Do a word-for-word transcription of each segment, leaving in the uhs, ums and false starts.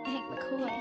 Hank McCoy.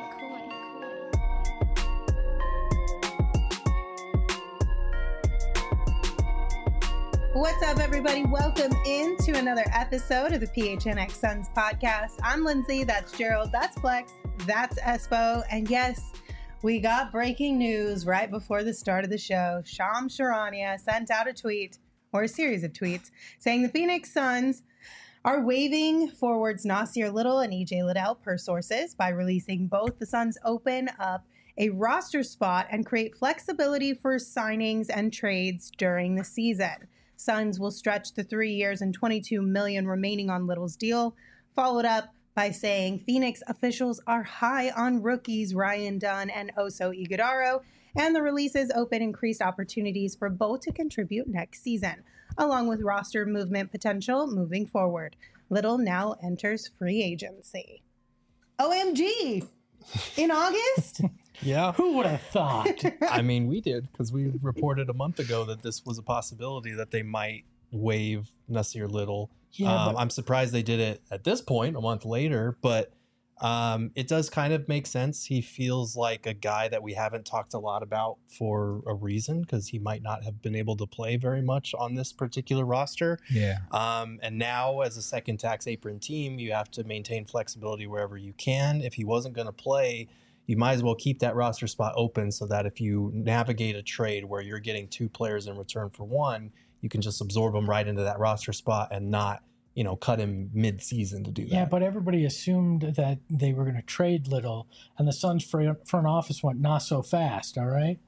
What's up, everybody? Welcome into another episode of the P H N X Suns podcast. I'm Lindsay. That's Gerald. That's Flex. That's Espo. And yes, we got breaking news right before the start of the show. Shams Charania sent out a tweet, or a series of tweets, saying the Phoenix Suns are waiving forwards Nasir Little and E J Liddell per sources by releasing both. The Suns open up a roster spot and create flexibility for signings and trades during the season. Suns will stretch the three years and twenty-two million dollars remaining on Little's deal, followed up by saying Phoenix officials are high on rookies Ryan Dunn and Oso Ighodaro, and the releases open increased opportunities for both to contribute next season, along with roster movement potential moving forward. Little now enters free agency. O M G! In August? Yeah. Who would have thought? I mean, we did, because we reported a month ago that this was a possibility that they might waive Nasir Little. Yeah, um, but- I'm surprised they did it at this point, a month later, but um, it does kind of make sense. He feels like a guy that we haven't talked a lot about for a reason, because he might not have been able to play very much on this particular roster. Yeah. Um, and now, as a second tax apron team, you have to maintain flexibility wherever you can. If he wasn't going to play, you might as well keep that roster spot open so that if you navigate a trade where you're getting two players in return for one, you can just absorb them right into that roster spot and not, you know, cut him mid-season to do that. Yeah, but everybody assumed that they were going to trade Little, and the Suns front front office went not so fast, all right?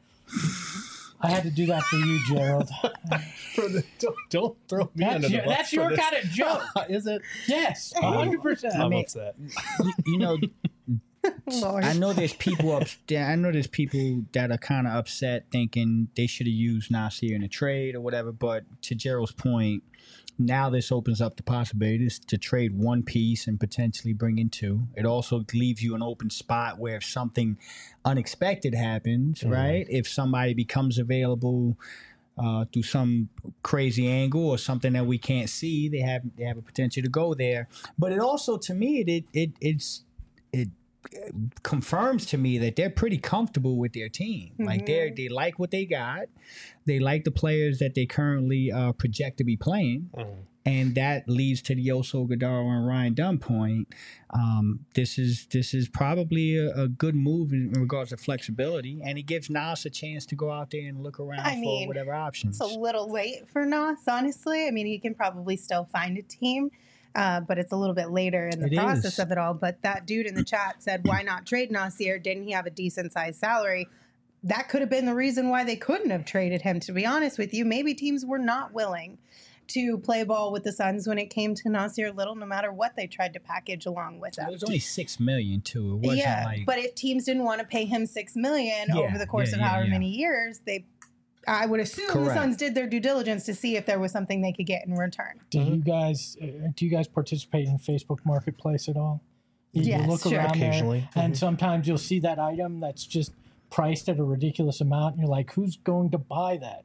I had to do that for you, Gerald. For the, don't, don't throw me That's under the your, bus that's for your this. kind of joke. Is it? Yes, one hundred percent. I'm mean- upset. you, you know, Lord. I know there's people up. I know there's people that are kind of upset, thinking they should have used Nasir in a trade or whatever. But to Gerald's point, now this opens up the possibilities to trade one piece and potentially bring in two. It also leaves you an open spot where if something unexpected happens, Mhm. right? If somebody becomes available uh, through some crazy angle or something that we can't see, they have they have a potential to go there. But it also, to me, it it it's it confirms to me that they're pretty comfortable with their team. Mm-hmm. Like they they like what they got. They like the players that they currently uh, project to be playing. Mm-hmm. And that leads to the Oso Ighodaro and Ryan Dunn point. Um, this is this is probably a, a good move in regards to flexibility, and it gives Nas a chance to go out there and look around I for mean, whatever options. It's a little late for Nas, honestly. I mean, he can probably still find a team, uh, but it's a little bit later in the It process is. of it all. But that dude in the chat said, why not trade Nasir? Didn't he have a decent sized salary? That could have been the reason why they couldn't have traded him, to be honest with you. Maybe teams were not willing to play ball with the Suns when it came to Nasir Little, no matter what they tried to package along with It him. was only six million too. It wasn't Yeah, like but if teams didn't want to pay him six million Yeah, over the course yeah, of yeah, however yeah. many years, they, I would assume the Correct. Suns did their due diligence to see if there was something they could get in return. Do you guys uh, do you guys participate in Facebook Marketplace at all? You, you Yes, look sure. around Occasionally. there, and Mhm. sometimes you'll see that item that's just priced at a ridiculous amount, and you're like, "Who's going to buy that?"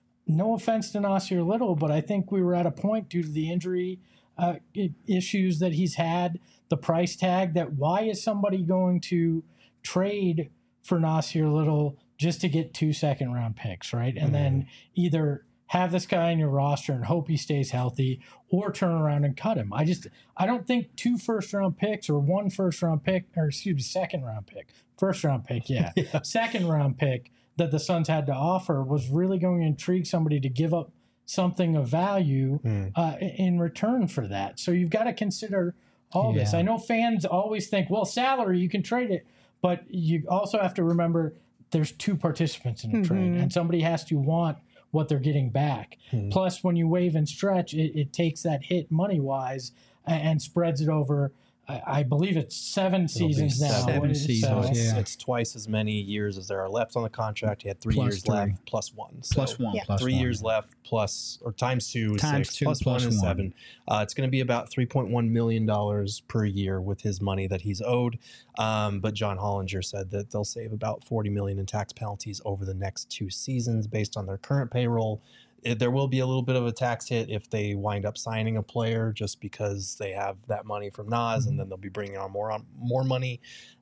No offense to Nasir Little, but I think we were at a point due to the injury uh, i- issues that he's had, the price tag, that why is somebody going to trade for Nasir Little just to get two second round picks, right? And then either have this guy in your roster and hope he stays healthy, or turn around and cut him. I just, I don't think two first round picks or one first round pick, or excuse me, second round pick, first round pick, yeah, Yeah. second round pick that the Suns had to offer was really going to intrigue somebody to give up something of value Mm. uh, in return for that. So you've got to consider all this. Yeah. I know fans always think, well, salary, you can trade it, but you also have to remember there's two participants in a trade, Mhm. and somebody has to want what they're getting back. Mhm. Plus, when you waive and stretch, it, it takes that hit money-wise and, and spreads it over, I, I believe it's seven It'll be seasons now. seven What is it? seasons, So- It's, yeah. it's twice as many years as there are left on the contract. He had three Plus years three. left, plus one. So plus one, Yeah. plus three one. years left, plus or times two is Times six, two, plus plus one is one. seven. Uh, it's going to be about three point one million dollars per year with his money that he's owed. Um, but John Hollinger said that they'll save about forty million dollars in tax penalties over the next two seasons based on their current payroll. it, there will be a little bit of a tax hit if they wind up signing a player, just because they have that money from Nas, mm-hmm. and then they'll be bringing on more on more money.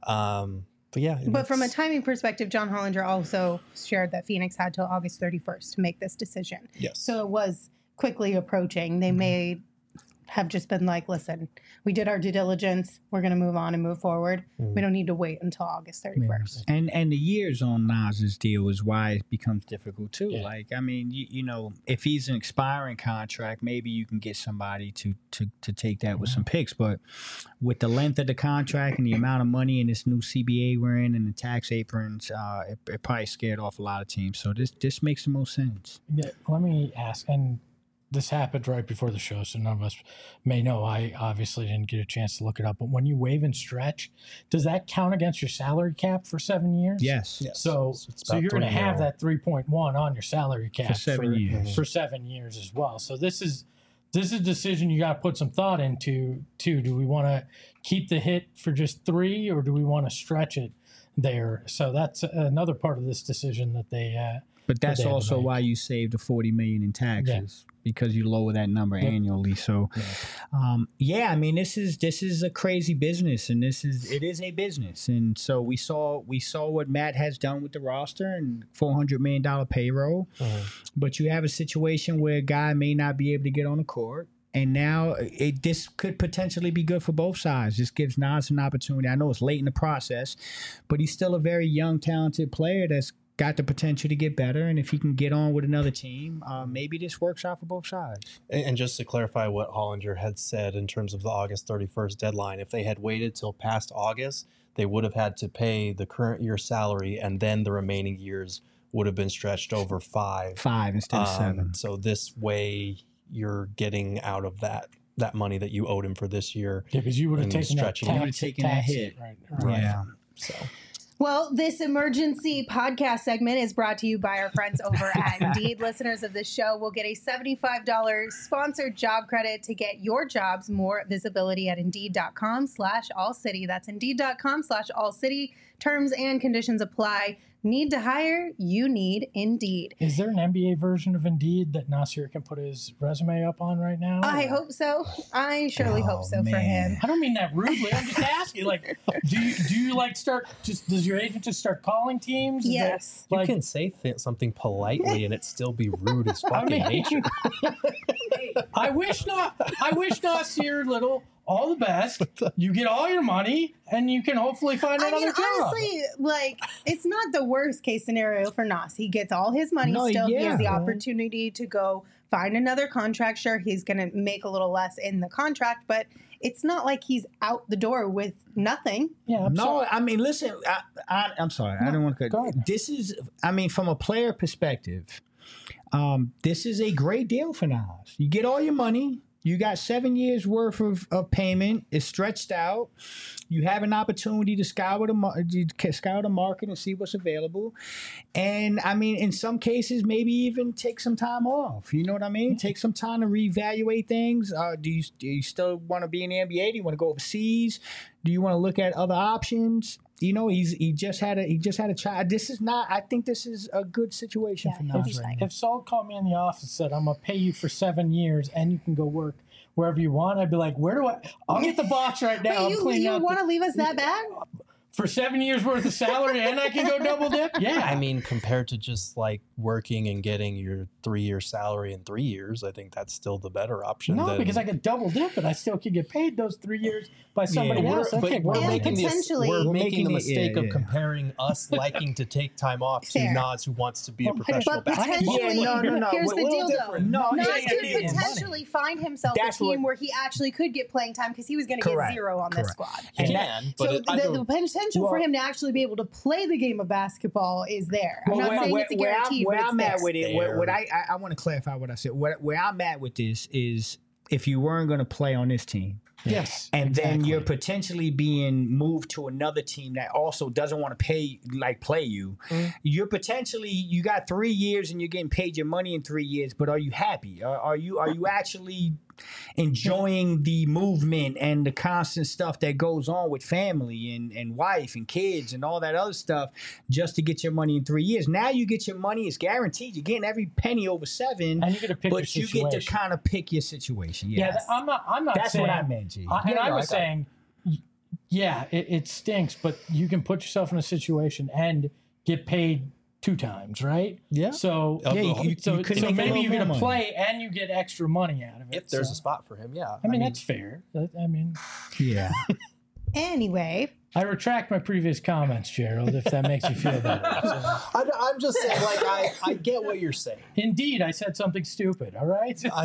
Um, but yeah, but from a timing perspective, John Hollinger also shared that Phoenix had till August thirty-first to make this decision. Yes, so it was quickly approaching. They mm-hmm. may have just been like, listen, we did our due diligence. We're going to move on and move forward. Mm. We don't need to wait until August thirty-first. Yeah. And and the years on Nas's deal is why it becomes difficult too. Yeah. Like, I mean, you, you know, if he's an expiring contract, maybe you can get somebody to to to take that with some picks. But with the length of the contract and the amount of money in this new C B A we're in and the tax aprons, uh, it, it probably scared off a lot of teams. So this this makes the most sense. Yeah, let me ask, and this happened right before the show, so none of us may know. I obviously didn't get a chance to look it up. But when you waive and stretch, does that count against your salary cap for seven years? Yes. yes. So, so, so you're going to have that three point one on your salary cap for seven for, years. For seven years as well. So this is this is a decision you got to put some thought into. Too. Do we want to keep the hit for just three, or do we want to stretch it there? So that's another part of this decision that they. Uh, but that's also why you saved the forty million in taxes. Yeah. Because you lower that number yep. annually. So, yeah. Um, yeah, I mean, this is this is a crazy business, and this is it is a business. And so we saw we saw what Matt has done with the roster and four hundred million dollar payroll. Uh-huh. But you have a situation where a guy may not be able to get on the court. And now it, this could potentially be good for both sides. This gives Nas an opportunity. I know it's late in the process, but he's still a very young, talented player that's got the potential to get better, and if he can get on with another team, uh, maybe this works out for both sides. And, and just to clarify what Hollinger had said in terms of the August thirty-first deadline, if they had waited till past August, they would have had to pay the current year's salary, and then the remaining years would have been stretched over five. Five instead of um, seven. So this way, you're getting out of that that money that you owed him for this year. Yeah, because you would have taken that, tax, you would have taken that hit. Right, right. Yeah. So. Well, this emergency podcast segment is brought to you by our friends over at Indeed. Listeners of this show will get a seventy-five dollars sponsored job credit to get your jobs more visibility at Indeed.com slash All City. That's Indeed.com slash All City. Terms and conditions apply. Need to hire? You need Indeed. Is there an N B A version of Indeed that Nasir can put his resume up on right now? I or? hope so. I surely oh, hope so man. for him. I don't mean that rudely. I'm just asking. Like, do you do you like start? Just does your agent just start calling teams? Yes. That, like, you can say th- something politely and it still be rude as fucking I mean, nature. I wish not. I wish Nasir Little all the best. You get all your money, and you can hopefully find another I mean, job. Honestly, like, it's not the worst case scenario for Nas. He gets all his money no, still. Yeah, he has the right. opportunity to go find another contract. Sure, he's going to make a little less in the contract, but it's not like he's out the door with nothing. Yeah, I'm no, sorry. I mean, listen, I, I, I'm sorry. No, I don't want to cut. This is, I mean, from a player perspective, um, this is a great deal for Nas. You get all your money. You got seven years worth of, of payment. It's stretched out. You have an opportunity to scour the, scour the market and see what's available. And, I mean, in some cases, maybe even take some time off. You know what I mean? Take some time to reevaluate things. Uh, do, you, do you still want to be in the N B A? Do you want to go overseas? Do you want to look at other options? You know, he's he just had a he just had a child. This is not. I think this is a good situation yeah, for Nas. Right if Saul called me in the office and said, "I'm gonna pay you for seven years and you can go work wherever you want," I'd be like, "Where do I? I'll get the box right now." Wait, you you want to leave us that bad? For seven years worth of salary and I can go double dip? Yeah. I mean, compared to just like working and getting your three year salary in three years, I think that's still the better option. No, than... because I could double dip and I still could get paid those three years by somebody yeah, else. We're, but we're, making this, we're, we're making making the it, mistake yeah, of yeah. comparing us liking to take time off to Fair. Nas, who wants to be well, a professional but potentially, yeah, no, no, no. Here's we're, the we're deal, though. No, Nas yeah, could yeah, potentially yeah. find himself That's a team what, where he actually could get playing time because he was going to get zero on Correct. this squad. He and can, that, but so it, I the, don't, the potential well, for him to actually be able to play the game of basketball is there. I'm well, not where, saying where, it's a guarantee, where I'm, where but I'm it's at with it, there. where, what I I, I want to clarify what I said. Where, where I'm at with this is if you weren't going to play on this team. Yes. And exactly. then you're potentially being moved to another team that also doesn't want to pay, like play you. Mm. You're potentially, you got three years and you're getting paid your money in three years, but are you happy? Are, are you are you actually enjoying the movement and the constant stuff that goes on with family and, and wife and kids and all that other stuff just to get your money in three years. Now you get your money, it's guaranteed. You're getting every penny over seven, And you get to pick but your you situation. get to kind of pick your situation. Yes. Yeah, th- I'm not. I'm not. That's saying, what I meant, G. I, and Yeah, I no, was I got it. saying, y- yeah, it, it stinks, but you can put yourself in a situation and get paid two times, right? Yeah. So Yeah, yeah, you- you, so, you could so make a maybe little you get to more money. play and you get extra money out of it. If there's so. a spot for him, yeah. I mean, that's fair. That- I mean, Yeah. Anyway, I retract my previous comments, Gerald, if that makes you feel better. So, I, I'm just saying, like, I, I get what you're saying. indeed, I said something stupid. All right. I'm,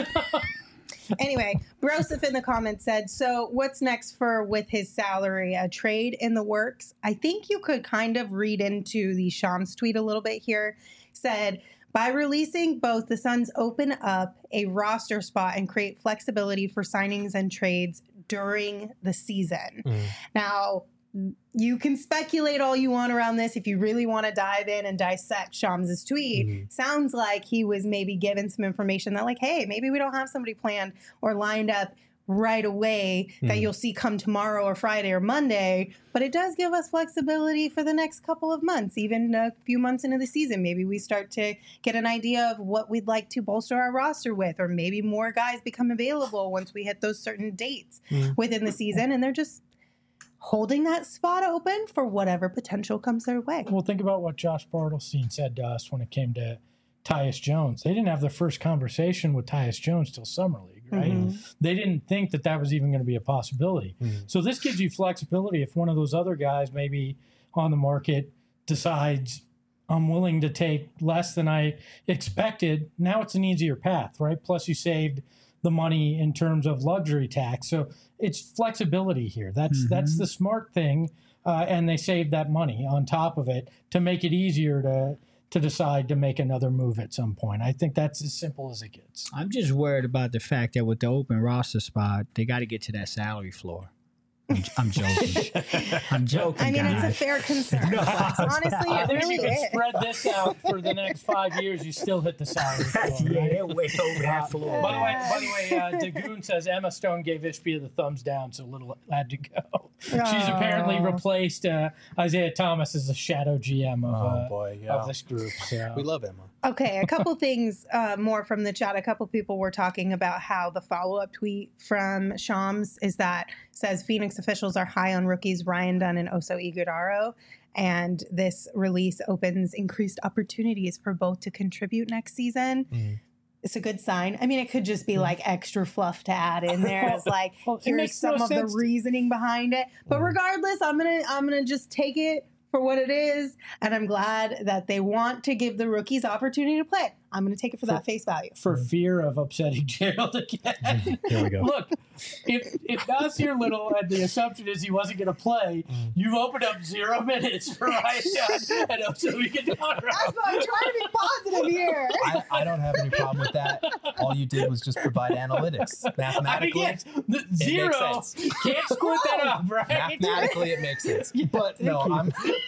anyway, Broseph in the comments said, so what's next for with his salary? A trade in the works? I think you could kind of read into the Shams tweet a little bit here. Said, by releasing both, the Suns open up a roster spot and create flexibility for signings and trades during the season. Mm. Now, you can speculate all you want around this if you really want to dive in and dissect Shams's tweet. Mhm. Sounds like he was maybe given some information that, like, hey, maybe we don't have somebody planned or lined up right away that Mhm. you'll see come tomorrow or Friday or Monday, but it does give us flexibility for the next couple of months, even a few months into the season. Maybe we start to get an idea of what we'd like to bolster our roster with, or maybe more guys become available once we hit those certain dates Mhm. within the season, and they're just holding that spot open for whatever potential comes their way. Well, think about what Josh Bartelstein said to us when it came to Tyus Jones. They didn't have their first conversation with Tyus Jones till Summer League, right? Mhm. They didn't think that that was even going to be a possibility. Mhm. So this gives you flexibility if one of those other guys maybe on the market decides, I'm willing to take less than I expected. Now it's an easier path, right? Plus you saved the money in terms of luxury tax. So it's flexibility here. That's Mhm. that's the smart thing. Uh, and they saved that money on top of it to make it easier to to decide to make another move at some point. I think that's as simple as it gets. I'm just worried about the fact that with the open roster spot, they got to get to that salary floor. I'm, I'm joking. I'm joking, I mean, guys. it's a fair concern. No, Flex. Honestly, I it think really you can is. spread this out for the next five years. You still hit the salary floor, yeah, right? they're way over that floor. By the way, by the way, uh, Dagoon says Emma Stone gave Ishbia the thumbs down, so Little had to go. She's apparently Aw. replaced uh, Isaiah Thomas as the shadow G M of, Oh, uh, boy, yeah. of this group. So. We love Emma. Okay, a couple things uh, more from the chat. A couple people were talking about how the follow-up tweet from Shams is that says Phoenix officials are high on rookies Ryan Dunn and Oso Ighodaro, and this release opens increased opportunities for both to contribute next season. Mhm. It's a good sign. I mean, it could just be like extra fluff to add in there as like Well, it here's makes no some of the sense to- reasoning behind it. But Mhm. regardless, I'm gonna I'm gonna just take it for what it is, and I'm glad that they want to give the rookies opportunity to play. I'm going to take it for that face value. For fear of upsetting Gerald again. Here we go. Look, if if Nasir Little and the assumption is he wasn't going to play, Mm. you've opened up zero minutes for Ryan Dunn and Oso Ighodaro. That's why I'm trying to be positive here. I, I don't have any problem with that. All you did was just provide analytics. I mean, Mathematically, yes, the zero. sense. Can't split that up, right? mathematically it makes sense. But no, I'm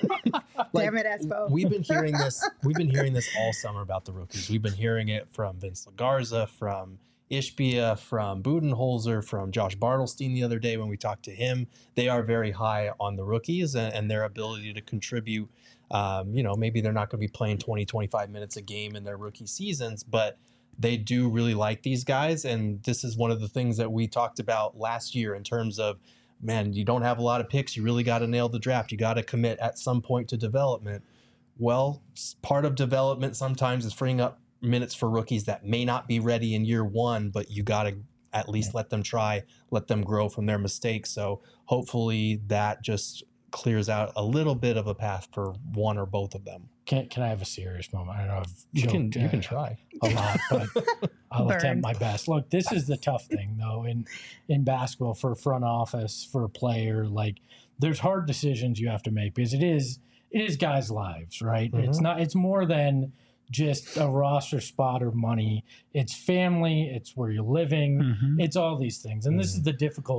like, Damn it, Espo. we've been hearing this. We've been hearing this all summer about the rookies. We've been hearing it from Vince LaGarza, from Ishbia, from Budenholzer, from Josh Bartelstein the other day when we talked to him. They are very high on the rookies and, and their ability to contribute. Um, you know, maybe they're not going to be playing twenty, twenty-five minutes a game in their rookie seasons, but they do really like these guys. And this is one of the things that we talked about last year in terms of, man, you don't have a lot of picks. You really got to nail the draft. You got to commit at some point to development. Well, s- part of development sometimes is freeing up minutes for rookies that may not be ready in year one, but you got to at least let them try, let them grow from their mistakes. So hopefully that just clears out a little bit of a path for one or both of them. Can, can I have a serious moment? I know I've You can joked, you can uh, try. a lot, but I'll Burned. attempt my best. Look, this is the tough thing though in in basketball for a front office, for a player. Like there's hard decisions you have to make because it is it is guys' lives, right? It's Mhm. not it's more than just a roster spot or money. It's family, it's where you're living, Mhm. it's all these things. And this is the difficult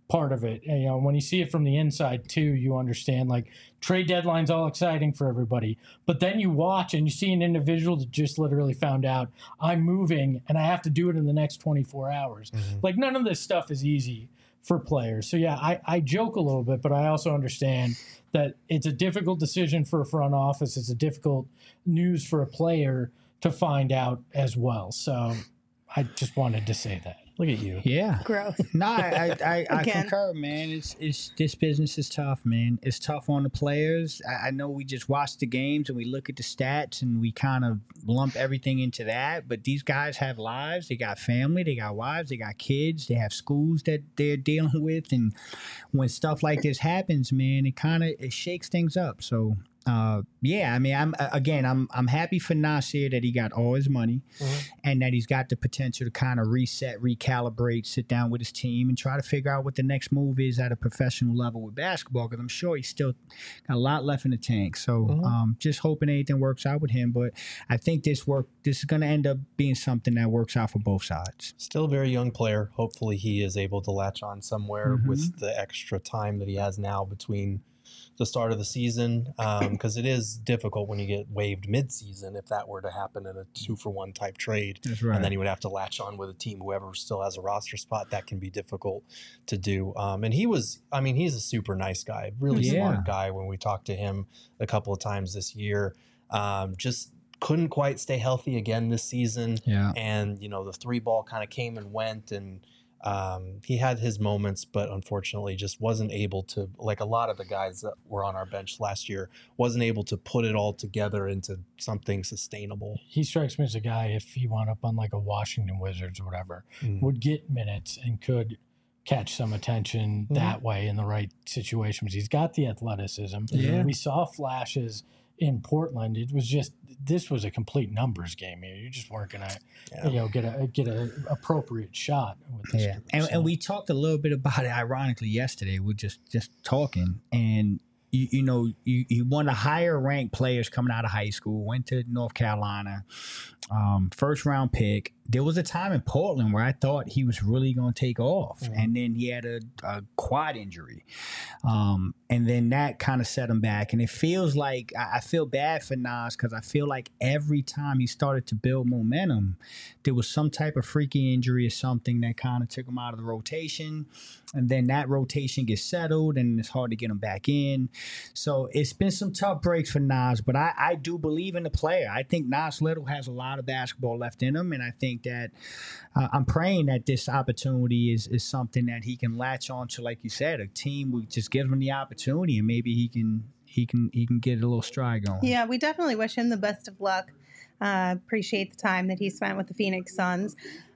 part of it. And, you know, when you see it from the inside too, you understand like trade deadline's all exciting for everybody. But then you watch and you see an individual that just literally found out I'm moving and I have to do it in the next twenty-four hours. Mm-hmm. Like none of this stuff is easy for players. So yeah, I, I joke a little bit, but I also understand that it's a difficult decision for a front office. It's a difficult news for a player to find out as well. So I just wanted to say that. Look at you. Yeah. Gross. No, I I, I, I concur, man. It's it's this business is tough, man. It's tough on the players. I, I know we just watch the games and we look at the stats and we kind of lump everything into that. But these guys have lives. They got family. They got wives. They got kids. They have schools that they're dealing with. And when stuff like this happens, man, it kind of it shakes things up. So. Uh, yeah, I mean, I'm again, I'm I'm happy for Nassir that he got all his money, mm-hmm. and that he's got the potential to kind of reset, recalibrate, sit down with his team, and try to figure out what the next move is at a professional level with basketball. Because I'm sure he's still got a lot left in the tank. So, mm-hmm. um, just hoping anything works out with him. But I think this work, this is going to end up being something that works out for both sides. Still a very young player. Hopefully, he is able to latch on somewhere mm-hmm. with the extra time that he has now between the start of the season, because um, it is difficult when you get waived mid-season if that were to happen in a two-for-one type trade. That's right. And then you would have to latch on with a team, whoever still has a roster spot. That can be difficult to do. Um, and he was, I mean, he's a super nice guy, really yeah. smart guy when we talked to him a couple of times this year. Um, just couldn't quite stay healthy again this season. Yeah. And, you know, the three ball kind of came and went, and Um, he had his moments, but unfortunately just wasn't able to, like a lot of the guys that were on our bench last year, wasn't able to put it all together into something sustainable. He strikes me as a guy, if he wound up on like a Washington Wizards or whatever, mm. would get minutes and could catch some attention mm-hmm. that way in the right situations. He's got the athleticism. Yeah. We saw flashes in Portland. It was just, this was a complete numbers game here. You just weren't gonna, yeah. you know, get a get a appropriate shot with this yeah. group. And, so. and we talked a little bit about it, ironically, yesterday. We're just just talking, and you, you know, you, you one of the higher ranked players coming out of high school, went to North Carolina, um, first round pick. There was a time in Portland where I thought he was really going to take off, mm-hmm. and then he had a, a quad injury, um, and then that kind of set him back. And it feels like I, I feel bad for Nas, because I feel like every time he started to build momentum, there was some type of freaky injury or something that kind of took him out of the rotation, and then that rotation gets settled, and it's hard to get him back in. So it's been some tough breaks for Nas, but I, I do believe in the player. I think Nas Little has a lot of basketball left in him, and I think that uh, I'm praying that this opportunity is is something that he can latch on to, like you said, a team who just gives him the opportunity, and maybe he can he can he can get a little stride going. Yeah, we definitely wish him the best of luck. Uh, appreciate the time that he spent with the Phoenix Suns.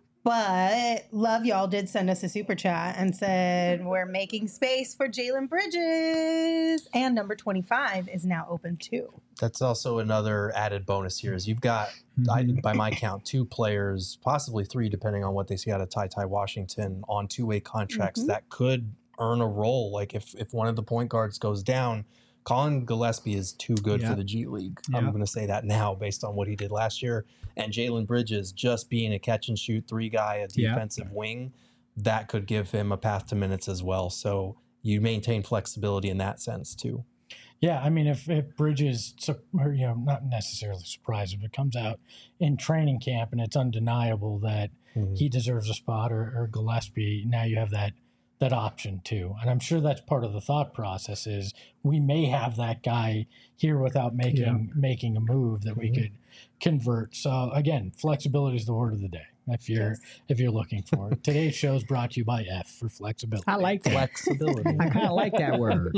But Love Y'all did send us a super chat and said, we're making space for Jalen Bridges. And number twenty-five is now open too. That's also another added bonus here is you've got, mm-hmm. I, by my count, two players, possibly three, depending on what they see out of Ty Ty Washington, on two-way contracts mm-hmm. that could earn a role. Like if, if one of the point guards goes down, Colin Gillespie is too good yep. for the G League. Yep. I'm going to say that now based on what he did last year. And Jalen Bridges, just being a catch-and-shoot three guy, a defensive yep. wing, that could give him a path to minutes as well. So you maintain flexibility in that sense too. Yeah, I mean, if, if Bridges, or, you know, not necessarily surprised, if it comes out in training camp and it's undeniable that mm-hmm. he deserves a spot, or, or Gillespie, now you have that that option too. And I'm sure that's part of the thought process is we may have that guy here without making yeah. making a move that mm-hmm. we could convert. So again, flexibility is the word of the day. If you're yes. if you're looking for it. Today's show is brought to you by F for flexibility. I like that. Flexibility. I kind of like that word.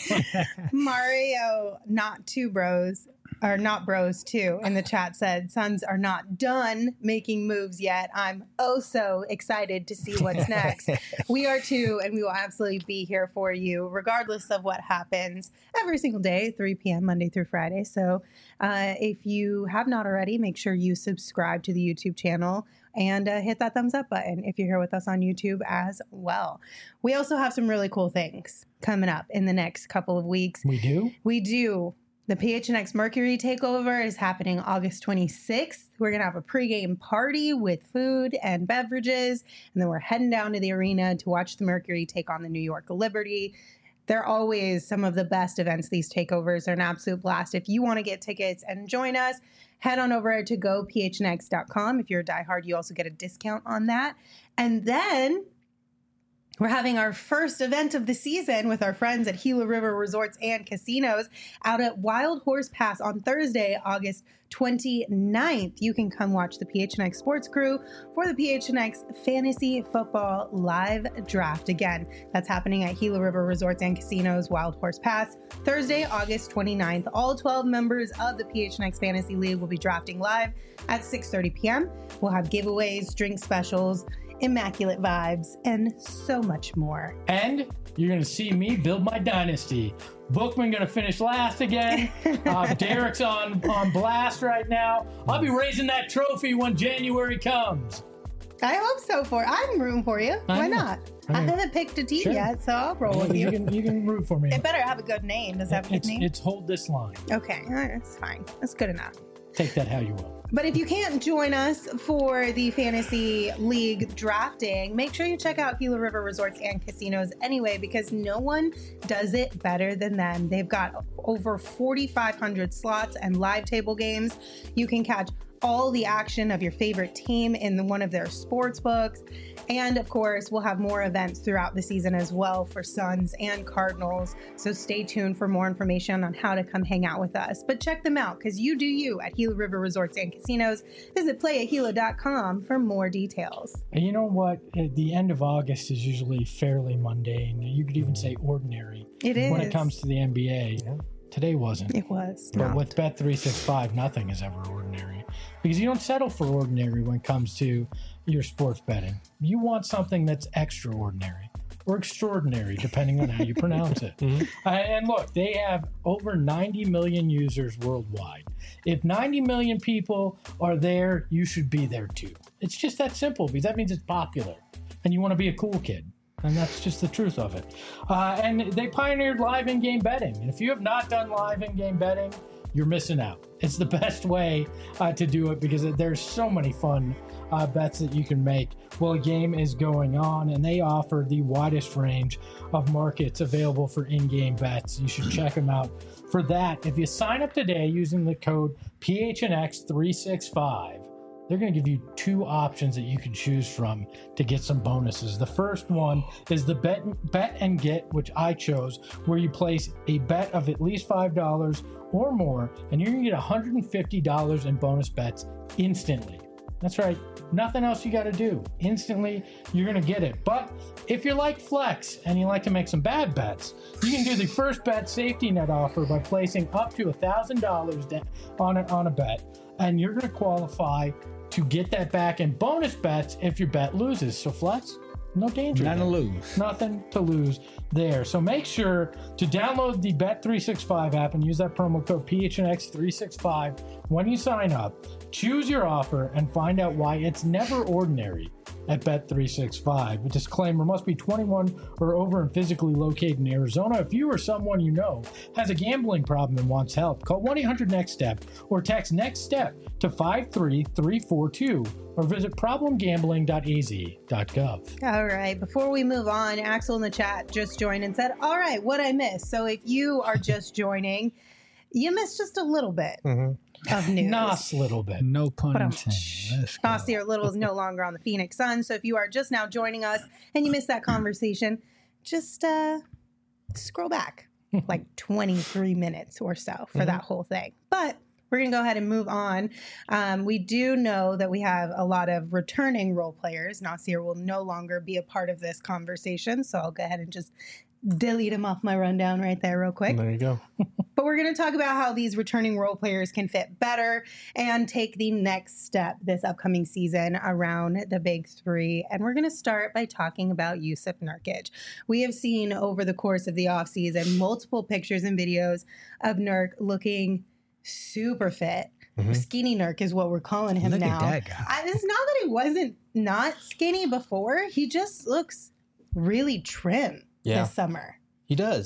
Mario, not two bros, or not bros too, in the chat said, Suns are not done making moves yet. I'm oh so excited to see what's next. We are too, and we will absolutely be here for you, regardless of what happens every single day, three p.m. Monday through Friday. So uh, if you have not already, make sure you subscribe to the YouTube channel and uh, hit that thumbs up button if you're here with us on YouTube as well. We also have some really cool things coming up in the next couple of weeks. We do? We do. The P H N X Mercury Takeover is happening August twenty-sixth. We're going to have a pregame party with food and beverages, and then we're heading down to the arena to watch the Mercury take on the New York Liberty. They're always some of the best events. These takeovers are an absolute blast. If you want to get tickets and join us, head on over to go p h n x dot com. If you're a diehard, you also get a discount on that. And then we're having our first event of the season with our friends at Gila River Resorts and Casinos out at Wild Horse Pass on Thursday, August twenty-ninth. You can come watch the P H N X Sports Crew for the P H N X Fantasy Football Live Draft. Again, that's happening at Gila River Resorts and Casinos, Wild Horse Pass, Thursday, August twenty-ninth. All twelve members of the P H N X Fantasy League will be drafting live at six thirty p.m. We'll have giveaways, drink specials, immaculate vibes, and so much more. And you're going to see me build my dynasty. Bookman going to finish last again. Uh, Derek's on, on blast right now. I'll be raising that trophy when January comes. I hope so. For I'm rooting for you. I Why know. not? I I, know. haven't picked a team Sure. yet, so I'll roll with you, you. can, you can root for me. It better have a good name. Does that have a good It's, name? it's hold this line. Okay, all right, that's fine. That's good enough. Take that how you will. But if you can't join us for the Fantasy League drafting, make sure you check out Gila River Resorts and Casinos anyway, because no one does it better than them. They've got over forty-five hundred slots and live table games. You can catch all the action of your favorite team in the, one of their sports books. And of course, we'll have more events throughout the season as well for Suns and Cardinals. So stay tuned for more information on how to come hang out with us. But check them out, because you do you at Gila River Resorts and Casinos. Visit play at gila dot com for more details. And you know what? At the end of August is usually fairly mundane. You could even say ordinary It is. when it comes to the N B A. Yeah. Today wasn't. It was. But Not. with Bet three sixty-five, nothing is ever ordinary. Because you don't settle for ordinary when it comes to your sports betting. You want something that's extraordinary or extraordinary, depending on how you pronounce it. Mhm. Uh, and look, they have over ninety million users worldwide. If ninety million people are there, you should be there too. It's just that simple, because that means it's popular and you want to be a cool kid. And that's just the truth of it. Uh, and they pioneered live in-game betting. And if you have not done live in-game betting, you're missing out. It's the best way uh, to do it, because there's so many fun uh, bets that you can make while a game is going on. And they offer the widest range of markets available for in-game bets. You should check them out for that. If you sign up today using the code P H N X three sixty-five, they're going to give you two options that you can choose from to get some bonuses. The first one is the bet, bet and get, which I chose, where you place a bet of at least five dollars or more, and you're going to get one hundred fifty dollars in bonus bets instantly. That's right. Nothing else you got to do. Instantly, you're going to get it. But if you're like Flex and you like to make some bad bets, you can do the first bet safety net offer by placing up to one thousand dollars on a, on a bet, and you're going to qualify to get that back in bonus bets if your bet loses. So Flex, no danger. Nothing to there. lose. Nothing to lose there. So make sure to download the Bet three sixty-five app and use that promo code P H N X three sixty-five when you sign up. Choose your offer and find out why it's never ordinary at Bet three sixty-five. A disclaimer: must be twenty-one or over and physically located in Arizona. If you or someone you know has a gambling problem and wants help, call one eight hundred next step or text NEXT-STEP to five three three four two or visit problem gambling dot a z dot gov. All right. Before we move on, Axel in the chat just joined and said, all right, what I missed. So if you are just joining, you missed just a little bit Mhm. of news. Nos little bit. No pun But I'm- intended. Let's go. Nasir Little is no longer on the Phoenix Suns. So if you are just now joining us and you missed that conversation, just uh, scroll back like twenty-three minutes or so for Mhm. that whole thing. But we're going to go ahead and move on. Um, we do know that we have a lot of returning role players. Nasir will no longer be a part of this conversation. So I'll go ahead and just delete him off my rundown right there real quick. There you go. But we're going to talk about how these returning role players can fit better and take the next step this upcoming season around the big three. And we're going to start by talking about Jusuf Nurkic. We have seen over the course of the offseason multiple pictures and videos of Nurk looking super fit. Mhm. Skinny Nurk is what we're calling him Look now. at that guy. I, it's not that he wasn't not skinny before. He just looks really trim Yeah. this summer. He does.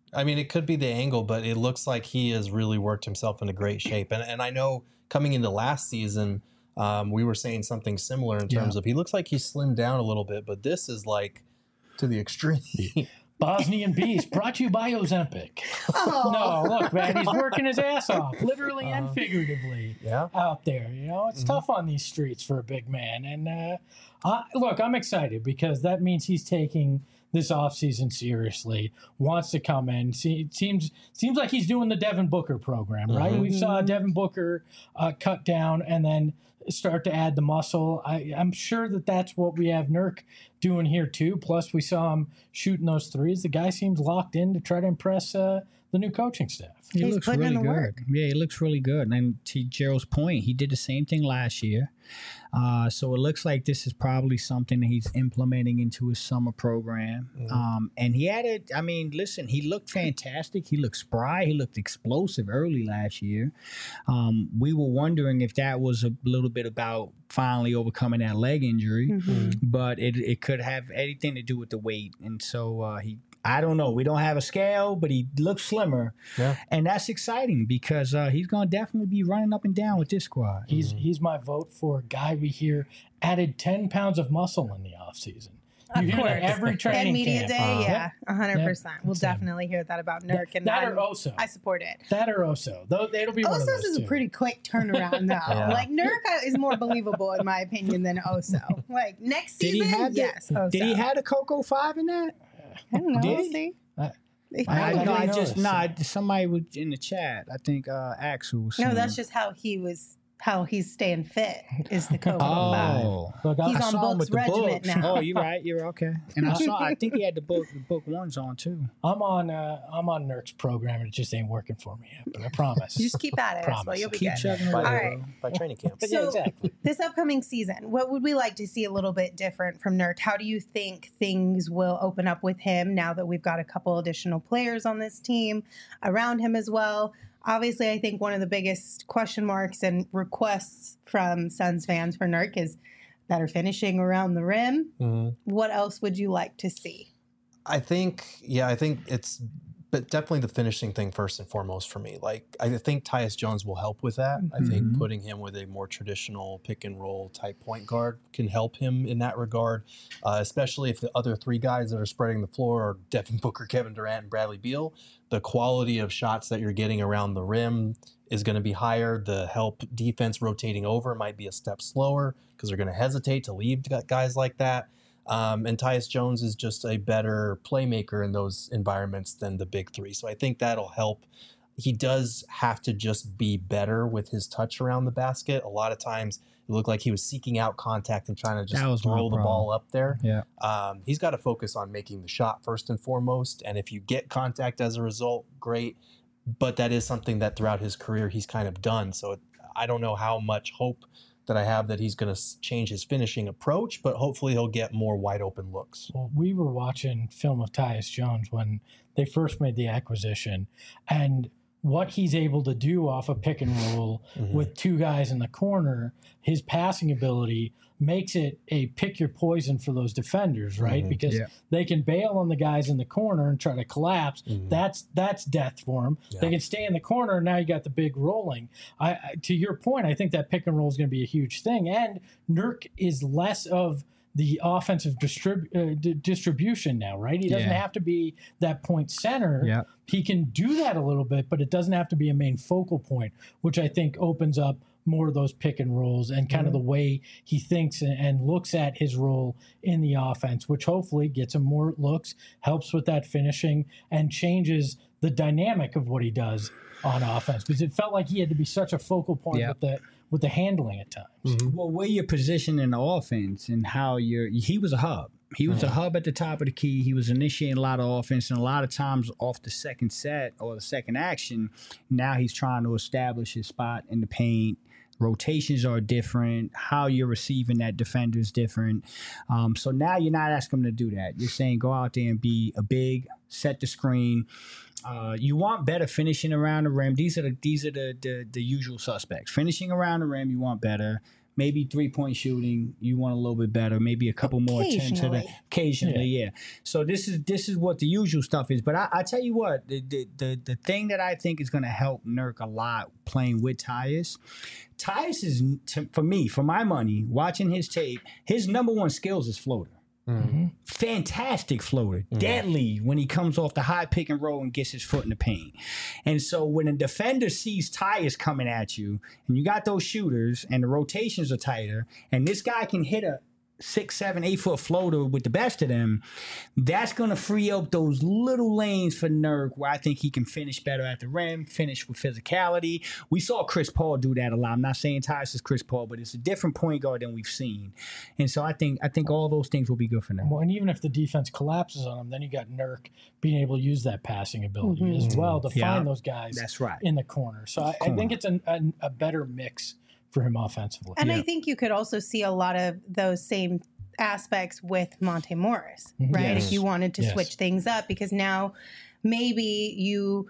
I mean, it could be the angle, but it looks like he has really worked himself into great shape. And and I know coming into last season, um, we were saying something similar in terms Yeah. of he looks like he's slimmed down a little bit, but this is like to the extreme. Bosnian Beast, brought to you by Ozempic. Oh. No, look, man, he's working his ass off, literally and Uh-huh. figuratively, Yeah. out there. You know, it's Mhm. tough on these streets for a big man. And uh, I, look, I'm excited because that means he's taking this offseason seriously, wants to come in. See, it seems seems like he's doing the Devin Booker program, right? Mhm. We saw Devin Booker uh, cut down and then start to add the muscle. I, I'm sure that that's what we have Nurk doing here too. Plus, we saw him shooting those threes. The guy seems locked in to try to impress uh, the new coaching staff. He He's looks putting in really the good. work. Yeah, he looks really good. And to Gerald's point, he did the same thing last year. Uh, so it looks like this is probably something that he's implementing into his summer program. Mhm. Um, and he had it. I mean, listen, he looked fantastic. He looked spry. He looked explosive early last year. Um, we were wondering if that was a little bit about finally overcoming that leg injury, Mhm. but it, it could have anything to do with the weight. And so uh, he, I don't know. We don't have a scale, but he looks slimmer. Yeah. And that's exciting because uh, he's going to definitely be running up and down with this squad. He's he's my vote for a guy we hear added ten pounds of muscle in the offseason. You Of hear that course. every At training media camp. day, Uh, yeah, a hundred percent. We'll Same. definitely hear that about Nurk, and that I'm- or Oso. I support it. That or Oso. Though it'll be one of Osos those is a two. pretty quick turnaround, though. Yeah. Like Nurk is more believable in my opinion than Oso. Like next Did he season, have the- yes, Oso. Did he have the Coco five in that? I don't know. did We'll he? see. I- He I- I, probably- no, I noticed. just no. I- somebody was in the chat. I think uh, Axel. Was no, saying- that's just how he was. How he's staying fit is the Coco five. Oh, Look, I- He's I on saw him Book's with the regiment books. now. Oh, you're right. You're okay. And I saw. I think he had the book. The book ones on too. I'm on uh, I'm on Nurk's program and it just ain't working for me yet. But I promise. You just keep at it. Promise. Well, you'll be Keep good. chugging By, away. All right. bro. by training camp. But yeah, So- exactly. This upcoming season, what would we like to see a little bit different from Nurk? How do you think things will open up with him now that we've got a couple additional players on this team around him as well? Obviously, I think one of the biggest question marks and requests from Suns fans for Nurk is better finishing around the rim. Mhm. What else would you like to see? I think, yeah, I think it's but definitely the finishing thing first and foremost for me. Like, I think Tyus Jones will help with that. I think Mhm. putting him with a more traditional pick and roll type point guard can help him in that regard, uh, especially if the other three guys that are spreading the floor are Devin Booker, Kevin Durant, and Bradley Beal. The quality of shots that you're getting around the rim is going to be higher. The help defense rotating over might be a step slower because they're going to hesitate to leave guys like that. Um, and Tyus Jones is just a better playmaker in those environments than the big three. So I think that'll help. He does have to just be better with his touch around the basket. A lot of times it looked like he was seeking out contact and trying to That was just my throw the problem. ball up there. Yeah. Um, he's got to focus on making the shot first and foremost. And if you get contact as a result, great. But that is something that throughout his career he's kind of done. So it, I don't know how much hope that I have that he's going to change his finishing approach, but hopefully he'll get more wide open looks. Well, we were watching film of Tyus Jones when they first made the acquisition, and what he's able to do off a pick and roll Mhm. with two guys in the corner, his passing ability makes it a pick your poison for those defenders, right? Mhm. Because Yeah. they can bail on the guys in the corner and try to collapse. Mhm. That's that's death for them. Yeah. They can stay in the corner, and now you got the big rolling. I, I to your point, I think that pick and roll is going to be a huge thing. And Nurk is less of the offensive distrib- uh, d- distribution now, right? He doesn't Yeah. have to be that point center. Yeah. He can do that a little bit, but it doesn't have to be a main focal point, which I think opens up more of those pick and rolls and kind of the way he thinks and, and looks at his role in the offense, which hopefully gets him more looks, helps with that finishing, and changes the dynamic of what he does on offense. Because it felt like he had to be such a focal point Yeah. with the with the handling at times. Well, where you're positioned in the offense and how you're, he was a hub. He was a hub at the top of the key. He was initiating a lot of offense, and a lot of times off the second set or the second action, now he's trying to establish his spot in the paint. Rotations are different. How you're receiving that defender is different. Um, so now you're not asking him to do that. You're saying go out there and be a big, set the screen. Uh, you want better finishing around the rim. These are the these are the, the the usual suspects. Finishing around the rim, you want better. maybe three-point shooting, you want a little bit better, maybe a couple more attempts at it. Occasionally. Occasionally, yeah. yeah. So this is this is what the usual stuff is. But I, I tell you what, the, the the the thing that I think is going to help Nurk a lot playing with Tyus, Tyus is, to, for me, for my money, watching his tape, his number one skills is floater. Mm-hmm. Fantastic floater, Mm-hmm. deadly when he comes off the high pick and roll and gets his foot in the paint. And so when a defender sees Tyus coming at you, and you got those shooters, and the rotations are tighter, and this guy can hit a six, seven, eight foot floater with the best of them, that's going to free up those little lanes for Nurk where I think he can finish better at the rim, finish with physicality. We saw Chris Paul do that a lot. I'm not saying Tyus is Chris Paul, but it's a different point guard than we've seen. And so I think I think all those things will be good for Nurk. Well, and even if the defense collapses on him, then you got Nurk being able to use that passing ability Mm-hmm. as well to Yeah. find those guys That's right. in the corner. So I, I Corner. think it's an, an, a better mix for him offensively. And Yeah. I think you could also see a lot of those same aspects with Monte Morris, Mhm. right? Yes. If you wanted to Yes. switch things up, because now maybe you,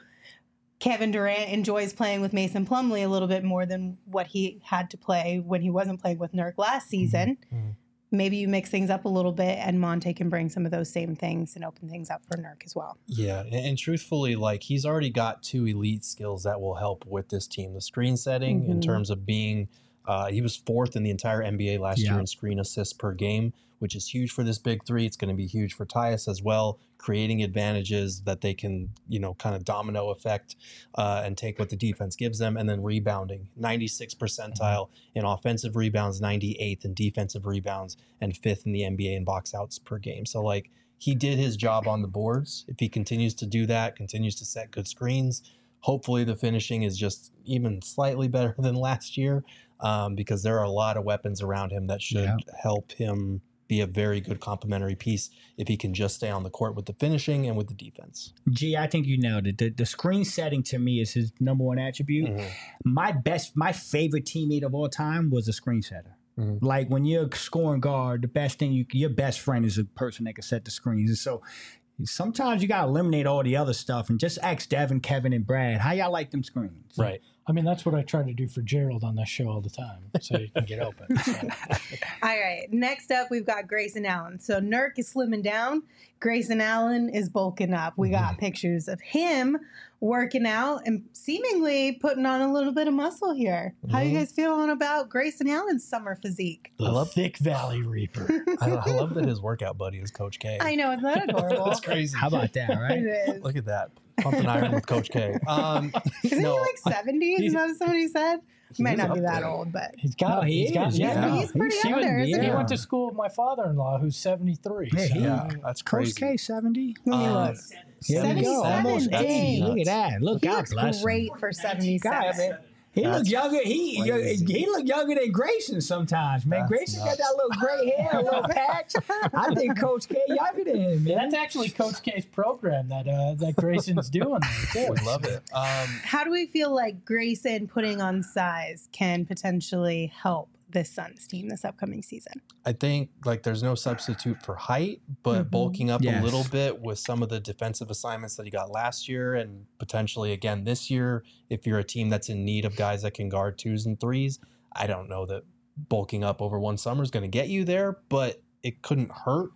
Kevin Durant enjoys playing with Mason Plumlee a little bit more than what he had to play when he wasn't playing with Nurk last season. Mhm. Maybe you mix things up a little bit, and Monte can bring some of those same things and open things up for Nurk as well. Yeah, and, and truthfully, like he's already got two elite skills that will help with this team. The screen setting in Mhm. terms of being, uh, he was fourth in the entire N B A last Yeah. year in screen assists per game, which is huge for this big three. It's going to be huge for Tyus as well, creating advantages that they can, you know, kind of domino effect uh, and take what the defense gives them. And then rebounding, ninety-sixth percentile in offensive rebounds, ninety-eighth in defensive rebounds, and fifth in the N B A in box outs per game. So like he did his job on the boards. If he continues to do that, continues to set good screens, hopefully the finishing is just even slightly better than last year, um, because there are a lot of weapons around him that should Yeah. help him be a very good complementary piece if he can just stay on the court with the finishing and with the defense. Gee, I think you nailed it. The, the screen setting to me is his number one attribute. Mhm. My best, my favorite teammate of all time was a screen setter. Mhm. Like when you're scoring guard, the best thing you, your best friend is a person that can set the screens. And so sometimes you got to eliminate all the other stuff and just ask Devin, Kevin, and Brad, how y'all like them screens? Right. I mean, that's what I try to do for Gerald on this show all the time, so you can get open. So. All right. Next up, we've got Grayson Allen. So Nurk is slimming down. Grayson Allen is bulking up. We got pictures of him working out and seemingly putting on a little bit of muscle here. How you Mhm. guys feeling about Grayson Allen's summer physique? The I love- Thick Valley Reaper. I, I love that his workout buddy is Coach K. I know, isn't that adorable? That's crazy. How about that, right? It is. Look at that. Pumping iron with Coach K. Um, Isn't no, he like seventy? Is that what somebody said? He might He's not be up that there. old, but He's got. Oh, he he's got. is, Yeah, yeah. he's pretty He's up there, isn't seventy, he? He yeah. went to school with my father-in-law, who's seventy-three. Yeah, so- he- yeah, that's crazy. Coach K, seventy. Let me Um, look. Here we go. seventy-seven, Almost dang. eighty. Look at that. Look, He God looks bless him. great for God, seventy-seven. man. He That's look younger. He crazy. he look younger than Grayson sometimes, man. That's Grayson got nuts. that little gray hair, a little patch. I think Coach K younger than him, man. That's actually Coach K's program that uh, that Grayson's doing there too. Would love it. Um, How do we feel like Grayson putting on size can potentially help this Suns team this upcoming season? I think like there's no substitute for height, but Mhm. bulking up Yes. a little bit with some of the defensive assignments that he got last year and potentially again this year, if you're a team that's in need of guys that can guard twos and threes, I don't know that bulking up over one summer is going to get you there, but it couldn't hurt.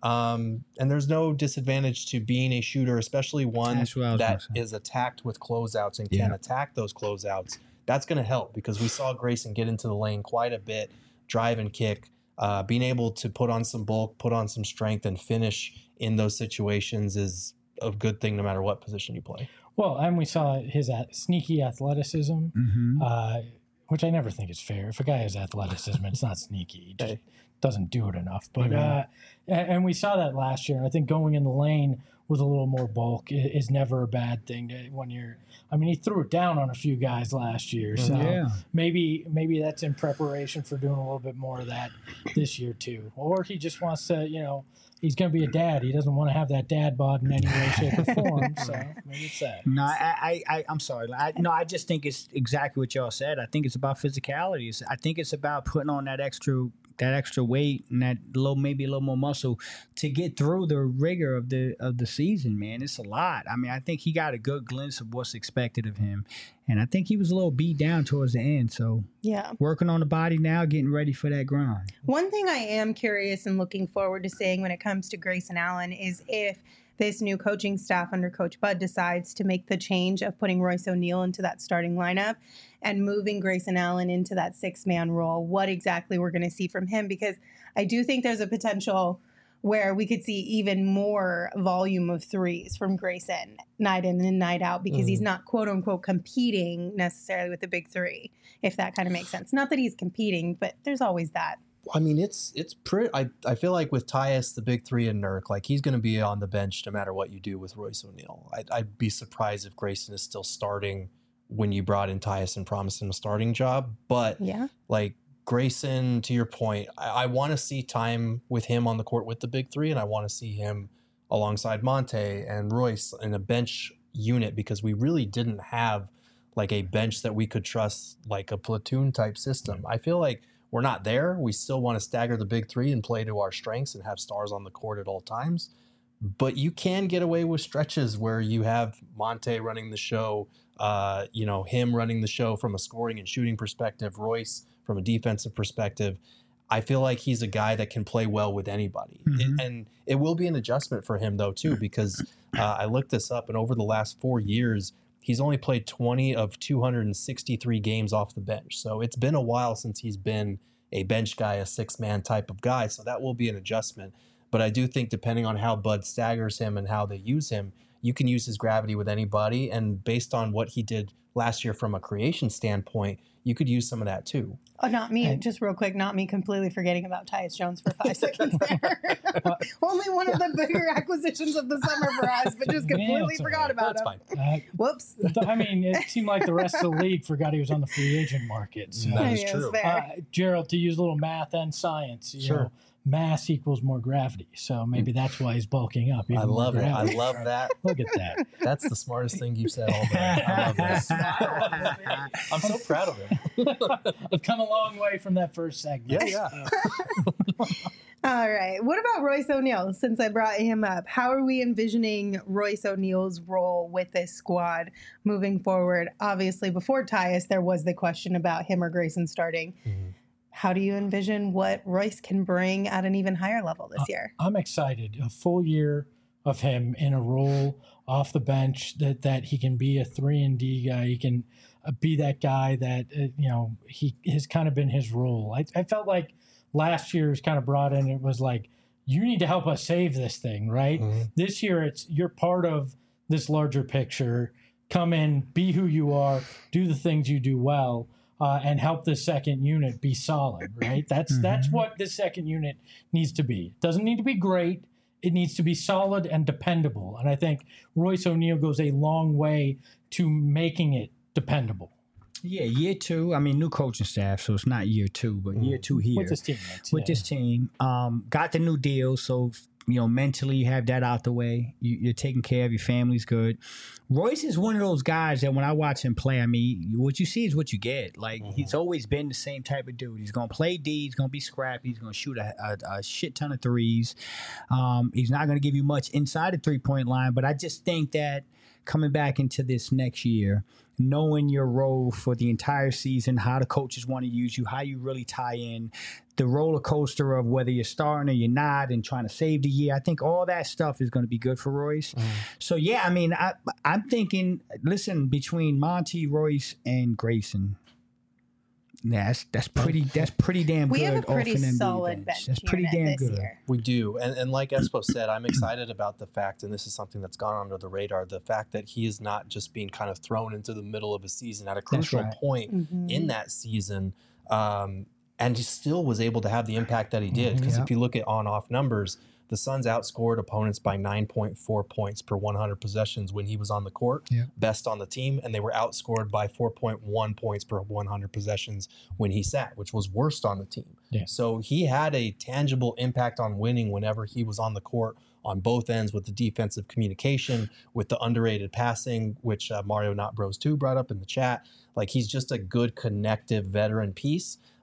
Um, and there's no disadvantage to being a shooter, especially one That's what I was that gonna say. is attacked with closeouts and can Yeah. attack those closeouts. That's going to help because we saw Grayson get into the lane quite a bit, drive and kick, uh, being able to put on some bulk, put on some strength, and finish in those situations is a good thing no matter what position you play. Well, and we saw his uh, sneaky athleticism, Mm-hmm. uh, which I never think is fair. If a guy has athleticism, it's not sneaky. He just Hey. doesn't do it enough. But Mhm. uh, a- and we saw that last year. I think going in the lane with a little more bulk i- is never a bad thing to, when you're. I mean, he threw it down on a few guys last year, so Yeah. maybe maybe that's in preparation for doing a little bit more of that this year too. Or he just wants to, you know, he's going to be a dad. He doesn't want to have that dad bod in any way, shape, or form. So maybe it's that. No, I, I, I, I'm sorry. I, no, I just think it's exactly what y'all said. I think it's about physicality. It's, I think it's about putting on that extra, that extra weight and that little, maybe a little more muscle to get through the rigor of the of the season, man. It's a lot. I mean, I think he got a good glimpse of what's expected of him. And I think he was a little beat down towards the end. So yeah, working on the body now, getting ready for that grind. One thing I am curious and looking forward to seeing when it comes to Grayson Allen is if this new coaching staff under Coach Bud decides to make the change of putting Royce O'Neal into that starting lineup and moving Grayson Allen into that six-man role, what exactly we're going to see from him. Because I do think there's a potential where we could see even more volume of threes from Grayson night in and night out because mm. he's not, quote-unquote, competing necessarily with the big three, if that kind of makes sense. Not that he's competing, but there's always that. I mean, it's it's pretty. I, I feel like with Tyus, the big three, and Nurk, like he's going to be on the bench no matter what you do with Royce O'Neal. I'd, I'd be surprised if Grayson is still starting when you brought in Tyus and promised him a starting job. But yeah, like Grayson, to your point, I, I want to see time with him on the court with the big three, and I want to see him alongside Monte and Royce in a bench unit because we really didn't have like a bench that we could trust, like a platoon type system. I feel like we're not there. We still want to stagger the big three and play to our strengths and have stars on the court at all times. But you can get away with stretches where you have Monte running the show, uh, you know, him running the show from a scoring and shooting perspective, Royce from a defensive perspective. I feel like he's a guy that can play well with anybody. Mm-hmm. It, and it will be an adjustment for him, though, too, because uh, I looked this up, and over the last four years, he's only played twenty of two hundred sixty-three games off the bench. So it's been a while since he's been a bench guy, a six-man type of guy. So that will be an adjustment. But I do think depending on how Bud staggers him and how they use him, you can use his gravity with anybody. And based on what he did last year from a creation standpoint, you could use some of that too. Oh, not me. And, just real quick, not me completely forgetting about Tyus Jones for five seconds there. Only one of the bigger acquisitions of the summer for us, but just completely Yeah, forgot about That's him. fine. Uh, Whoops. I mean, it seemed like the rest of the league forgot he was on the free agent market. So. That is Yes, true. fair. Uh, Gerald, to use a little math and science, you Sure. know, mass equals more gravity. So maybe that's why he's bulking up. I even more love it. I gravity. love that. Look at that. That's the smartest thing you've said all day. I love this. I'm so proud of him. I've come a long way from that first segment. Yeah, yeah. All right. What about Royce O'Neal? Since I brought him up, how are we envisioning Royce O'Neal's role with this squad moving forward? Obviously, before Tyus, there was the question about him or Grayson starting. Mm-hmm. How do you envision what Royce can bring at an even higher level this year? I'm excited. A full year of him in a role off the bench that, that he can be a three and D guy. He can uh, be that guy that, uh, you know, he has kind of been his role. I, I felt like last year was kind of brought in. It was like, you need to help us save this thing, right? Mm-hmm. This year, it's you're part of this larger picture. Come in, be who you are, do the things you do well. Uh, and help the second unit be solid, right? That's Mm-hmm. that's what the second unit needs to be. It doesn't need to be great. It needs to be solid and dependable. And I think Royce O'Neal goes a long way to making it dependable. Yeah, year two. I mean, new coaching staff, so it's not year two, but year two here With this team. That's, with yeah. this team. Um, got the new deal, so you know mentally you have that out the way. You, you're taking care of your family's good. Royce is one of those guys that when I watch him play, I mean, what you see is what you get. Like Mm-hmm. he's always been the same type of dude. He's gonna play D. He's gonna be scrappy. He's gonna shoot a, a, a shit ton of threes. Um, he's not gonna give you much inside the three point line, but I just think that coming back into this next year, knowing your role for the entire season, how the coaches want to use you, how you really tie in, the roller coaster of whether you're starting or you're not and trying to save the year. I think all that stuff is going to be good for Royce. Mm. So, yeah, I mean, I, I'm thinking, listen, between Monty, Royce, and Grayson, yeah, that's, that's pretty That's pretty damn We good. have a pretty off an N B A solid bench That's pretty unit damn this good. year. We do. And, and like Espo said, I'm excited about the fact, and this is something that's gone under the radar, the fact that he is not just being kind of thrown into the middle of a season at a crucial right. point Mhm. in that season. Um, and he still was able to have the impact that he did. Because Yeah. if you look at on-off numbers, the Suns outscored opponents by nine point four points per one hundred possessions when he was on the court, Yeah. best on the team, and they were outscored by four point one points per one hundred possessions when he sat, which was worst on the team. Yeah. So he had a tangible impact on winning whenever he was on the court on both ends with the defensive communication, with the underrated passing, which uh, Mario Not Bros two brought up in the chat. Like he's just a good connective veteran piece.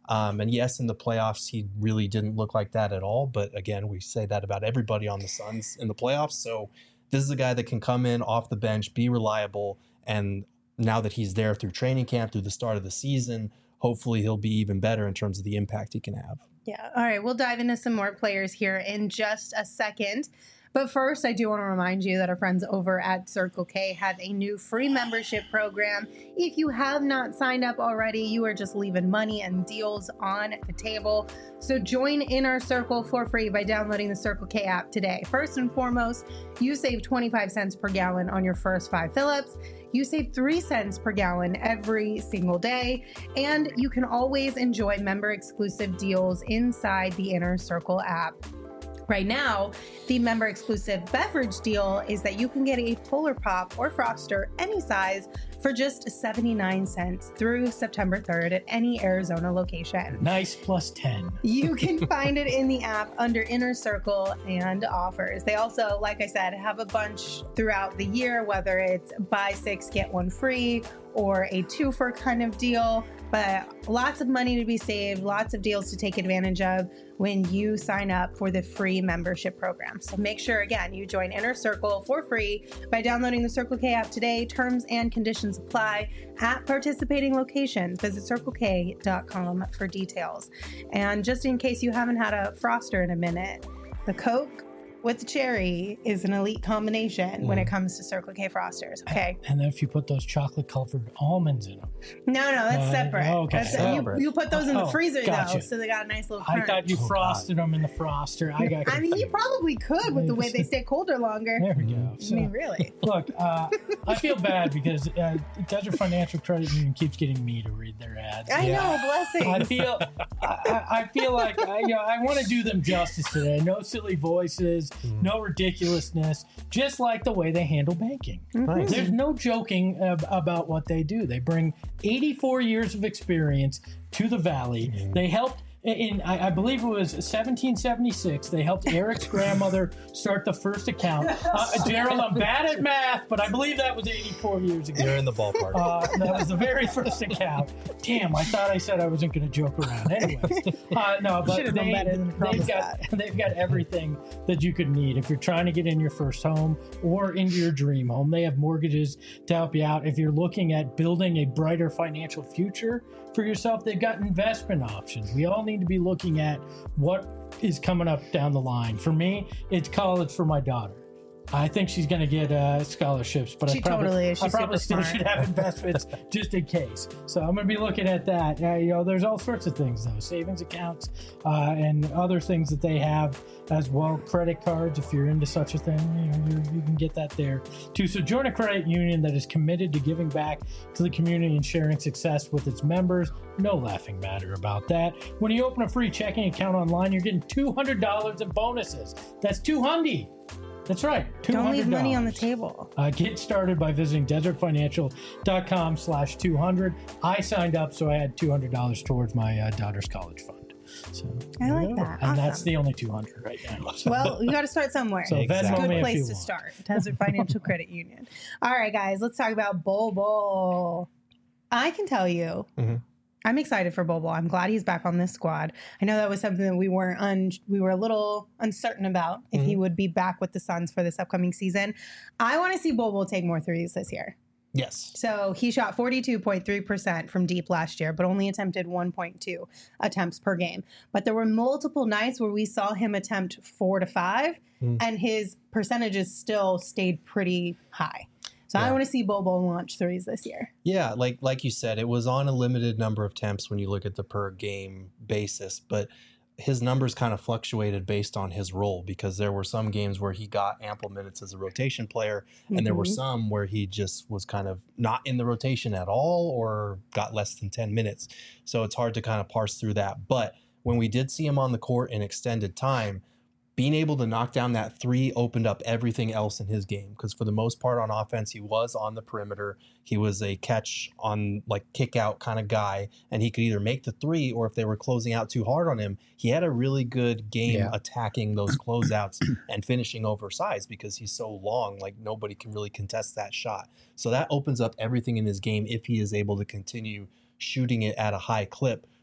Um, and yes, in the playoffs, he really didn't look like that at all. But again, we say that about everybody on the Suns in the playoffs. So this is a guy that can come in off the bench, be reliable. And now that he's there through training camp, through the start of the season, hopefully he'll be even better in terms of the impact he can have. Yeah. All right. We'll dive into some more players here in just a second. But first, I do want to remind you that our friends over at Circle K have a new free membership program. If you have not signed up already, you are just leaving money and deals on the table. So join Inner Circle for free by downloading the Circle K app today. First and foremost, you save twenty-five cents per gallon on your first five fill-ups. You save three cents per gallon every single day, and you can always enjoy member-exclusive deals inside the Inner Circle app. Right now, the member-exclusive beverage deal is that you can get a Polar Pop or Froster any size for just seventy-nine cents through September third at any Arizona location. Nice plus ten. You can find it in the app under Inner Circle and offers. They also, like I said, have a bunch throughout the year, whether it's buy six, get one free, or a two-for kind of deal. But lots of money to be saved, lots of deals to take advantage of when you sign up for the free membership program. So make sure, again, you join Inner Circle for free by downloading the Circle K app today. Terms and conditions apply at participating locations. Visit circle k dot com for details. And just in case you haven't had a Froster in a minute, the Coke with the cherry is an elite combination mm. when it comes to Circle K Frosters, okay? And then if you put those chocolate-covered almonds in them. No, no, that's uh, separate. Okay. That's, separate. You, you put those in the oh, freezer, gotcha. though, so they got a nice little crunch. I thought you Oh, frosted God. them in the Froster. I got I mean, you probably could with the way they stay colder longer. There we go. I mean, really. Look, uh, I feel bad because uh, Desert Financial Credit Union keeps getting me to read their ads. I Yeah. know, blessings. I feel, I, I- I feel like I, you know, I want to do them justice today. No silly voices, no ridiculousness. Just like the way they handle banking. Nice. There's no joking ab- about what they do. They bring eighty-four years of experience to the Valley. Mm-hmm. They helped. In, I, I believe it was seventeen seventy-six, they helped Eric's grandmother start the first account. Uh, Gerald, I'm bad at math, but I believe that was eighty-four years ago. You're in the ballpark. Uh, that was the very first account. Damn, I thought I said I wasn't going to joke around. Anyways, uh, no, but Should've known they, better than to promise they've got they've got everything that you could need if you're trying to get in your first home or into your dream home. They have mortgages to help you out. If you're looking at building a brighter financial future for yourself, they've got investment options. We all need to be looking at what is coming up down the line. For me, it's college for my daughter. I think she's going to get uh, scholarships, but She I probably, totally is. I She's probably super still smart. should have investments just in case. So I'm going to be looking at that. Uh, you know, there's all sorts of things though, savings accounts uh, and other things that they have as well. Credit cards, if you're into such a thing, you know, you, you can get that there too. So join a credit union that is committed to giving back to the community and sharing success with its members. No laughing matter about that. When you open a free checking account online, you're getting two hundred dollars in bonuses. That's two hundred. That's right. two hundred dollars. Don't leave money on the table. Uh, get started by visiting desert financial dot com slash two hundred. I signed up, so I had two hundred dollars towards my uh, daughter's college fund. So I there like you go. that. And that's Awesome. the only two hundred right now. So, Well, you got to start somewhere. so Exactly. Venmo Good me if place you to want. start. Desert Financial Credit Union. All right, guys, let's talk about Bol Bol. I can tell you, Mhm. I'm excited for Bol Bol. I'm glad he's back on this squad. I know that was something that we weren't un- we were a little uncertain about if he would be back with the Suns for this upcoming season. I want to see Bol Bol take more threes this year. Yes. So he shot forty-two point three percent from deep last year, but only attempted one point two attempts per game. But there were multiple nights where we saw him attempt four to five, Mm. and his percentages still stayed pretty high. So I Yeah. want to see Bol Bol launch threes this year. Yeah, like like you said, it was on a limited number of attempts when you look at the per game basis, but his numbers kind of fluctuated based on his role because there were some games where he got ample minutes as a rotation player, and there were Mhm. some where he just was kind of not in the rotation at all or got less than ten minutes. So it's hard to kind of parse through that. But when we did see him on the court in extended time, being able to knock down that three opened up everything else in his game because for the most part on offense, he was on the perimeter. He was a catch on like kick out kind of guy, and he could either make the three or if they were closing out too hard on him, he had a really good game Yeah. attacking those closeouts and finishing oversized because he's so long, like nobody can really contest that shot. So that opens up everything in his game if he is able to continue shooting it at a high clip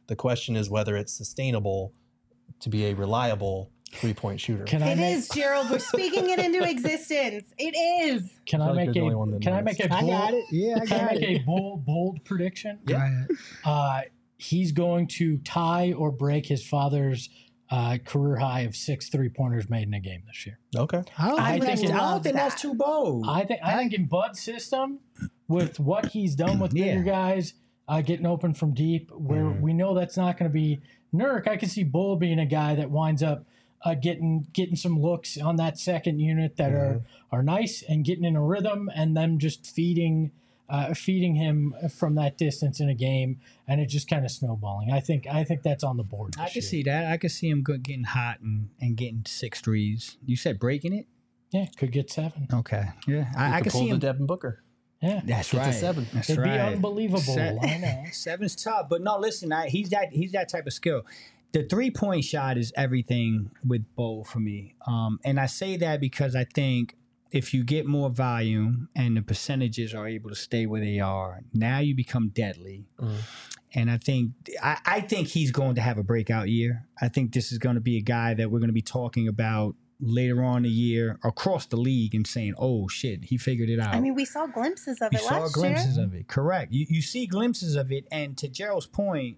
The question is whether it's sustainable to be a reliable three-point shooter. Can I It make, is, Gerald. We're speaking it into existence. It is. Can I I, feel like make you're the only one a that can I knows. make a I bold, got it. Yeah, I can I got make it. a bold bold prediction? Go ahead. Uh, he's going to tie or break his father's uh, career high of six three pointers made in a game this year. Okay. I don't I think, think that's, it I don't loves think that's that. too bold. I think I think in Bud's system, with what he's done with Yeah. bigger guys uh, getting open from deep, where Mhm. we know that's not going to be Nurk. I can see Bull being a guy that winds up uh, getting getting some looks on that second unit that are are nice and getting in a rhythm, and them just feeding uh, feeding him from that distance in a game, and it just kind of snowballing. I think I think that's on the board. I this can year. see that. I can see him go- getting hot and, and getting six threes. You said breaking it? Yeah, could get seven. Okay. Yeah. I, You I could can pull see the him. Devin Booker. Yeah, That's Get to right. seven. That's it'd right. be unbelievable. Se- I know. Seven's tough, but no. Listen, I, he's that he's that type of skill. The three point shot is everything with Bo for me, um, and I say that because I think if you get more volume and the percentages are able to stay where they are, now you become deadly. Mhm. And I think I, I think he's going to have a breakout year. I think this is going to be a guy that we're going to be talking about later on in the year across the league and saying, "Oh shit, he figured it out." I mean, we saw glimpses of You it saw last glimpses year. of it. Correct. You you see glimpses of it, and to Gerald's point,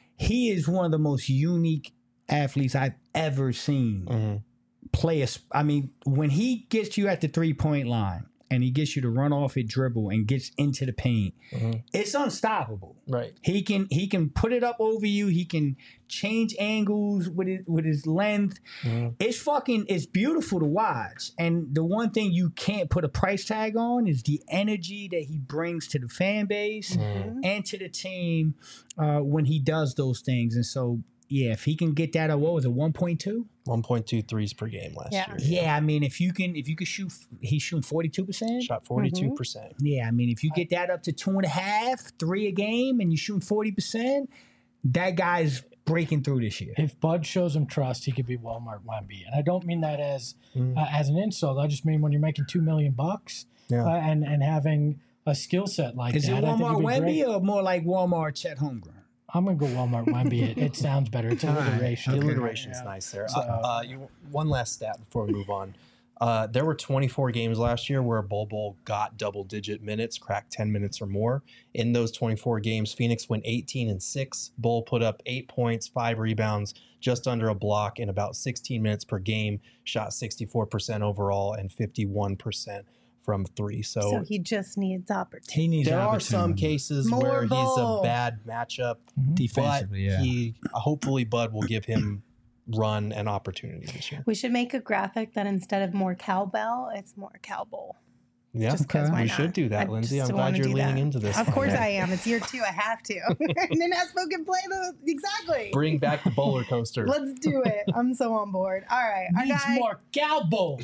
he is one of the most unique athletes I've ever seen Mhm. play. A, sp- I mean, when he gets you at the three point line and he gets you to run off it, dribble, and gets into the paint, Mhm. it's unstoppable. Right. He can he can put it up over you. He can change angles with it with his length. Mhm. It's fucking it's beautiful to watch. And the one thing you can't put a price tag on is the energy that he brings to the fan base Mhm. and to the team uh, when he does those things. And so yeah, if he can get that at what was it, one point two? one point two threes per game last Yeah. year. Yeah, I mean if you can if you could shoot he's shooting forty-two percent. Shot forty-two percent. Yeah, I mean, if you get that up to two and a half, three a game, and you shoot forty percent, that guy's breaking through this year. If Bud shows him trust, he could be Walmart Wemby, and I don't mean that as Mm. uh, as an insult. I just mean when you're making two million bucks Yeah. uh, and and having a skill set like Is that. it I think Walmart it'd be Wemby great. or more like Walmart Chet Holmgren? I'm gonna go Walmart Wemby. It, it sounds better. It's All right. alliteration. The Okay. alliteration's Yeah. nice there. So- uh, uh, you, one last stat before we move on. Uh, there were twenty-four games last year where Bol Bol got double-digit minutes, cracked ten minutes or more. In those twenty-four games, Phoenix went eighteen and six. Bol put up eight points, five rebounds, just under a block in about sixteen minutes per game. Shot sixty-four percent overall and fifty-one percent from three. So, So he just needs opportunity. He needs there are some opportunity. cases More where he's Bol. a bad matchup, Mhm. defensively. but Yeah, he hopefully Bud will give him run and opportunity this year. We should make a graphic that instead of more cowbell, it's more cowboy. Yeah, Just 'cause Okay. why we not? should do that, I Lindsay. just I'm wanna glad you're do leaning that. into this. Of one. course I am. It's year two. I have to. And then Espo can play the exactly. Bring back the bowler coaster. Let's do it. I'm so on board. All right. Our Needs guy. more cowboy.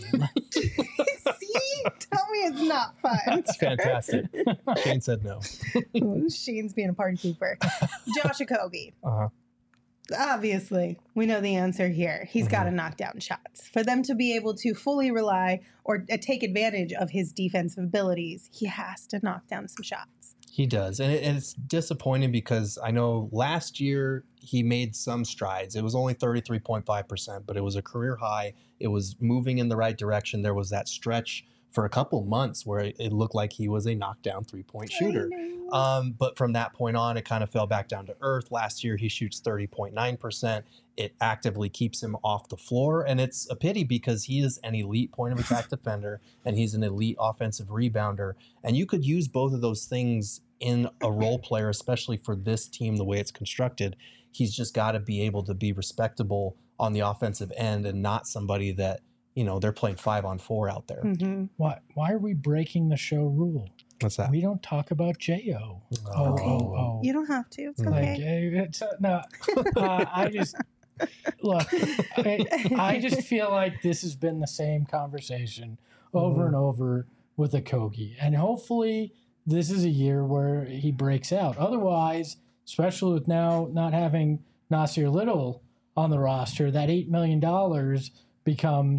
See? Tell me it's not fun. That's fantastic. Shane said no. Shane's being a party pooper. Josh Okogie. Uh-huh. Obviously, we know the answer here. He's got to knock down shots. For them to be able to fully rely or uh, take advantage of his defensive abilities, he has to knock down some shots. He does. And, it, and it's disappointing because I know last year he made some strides. It was only thirty-three point five percent, but it was a career high. It was moving in the right direction. There was that stretch for a couple months where it, it looked like he was a knockdown three-point shooter. Um, but from that point on, it kind of fell back down to earth. Last year, he shoots thirty point nine percent. It actively keeps him off the floor. And it's a pity because he is an elite point of attack defender and he's an elite offensive rebounder. And you could use both of those things in a role player, especially for this team, the way it's constructed. He's just got to be able to be respectable on the offensive end and not somebody that, you know, they're playing five on four out there. Mhm. Why? Why are we breaking the show rule? What's that? We don't talk about J O. Oh, Okay. oh, oh. You don't have to. It's Mm. Like, okay. eh, it's, uh, no, uh, I just look. I, I just feel like this has been the same conversation over Mhm. and over with Okogie, and hopefully this is a year where he breaks out. Otherwise, especially with now not having Nasir Little on the roster, that eight million dollars becomes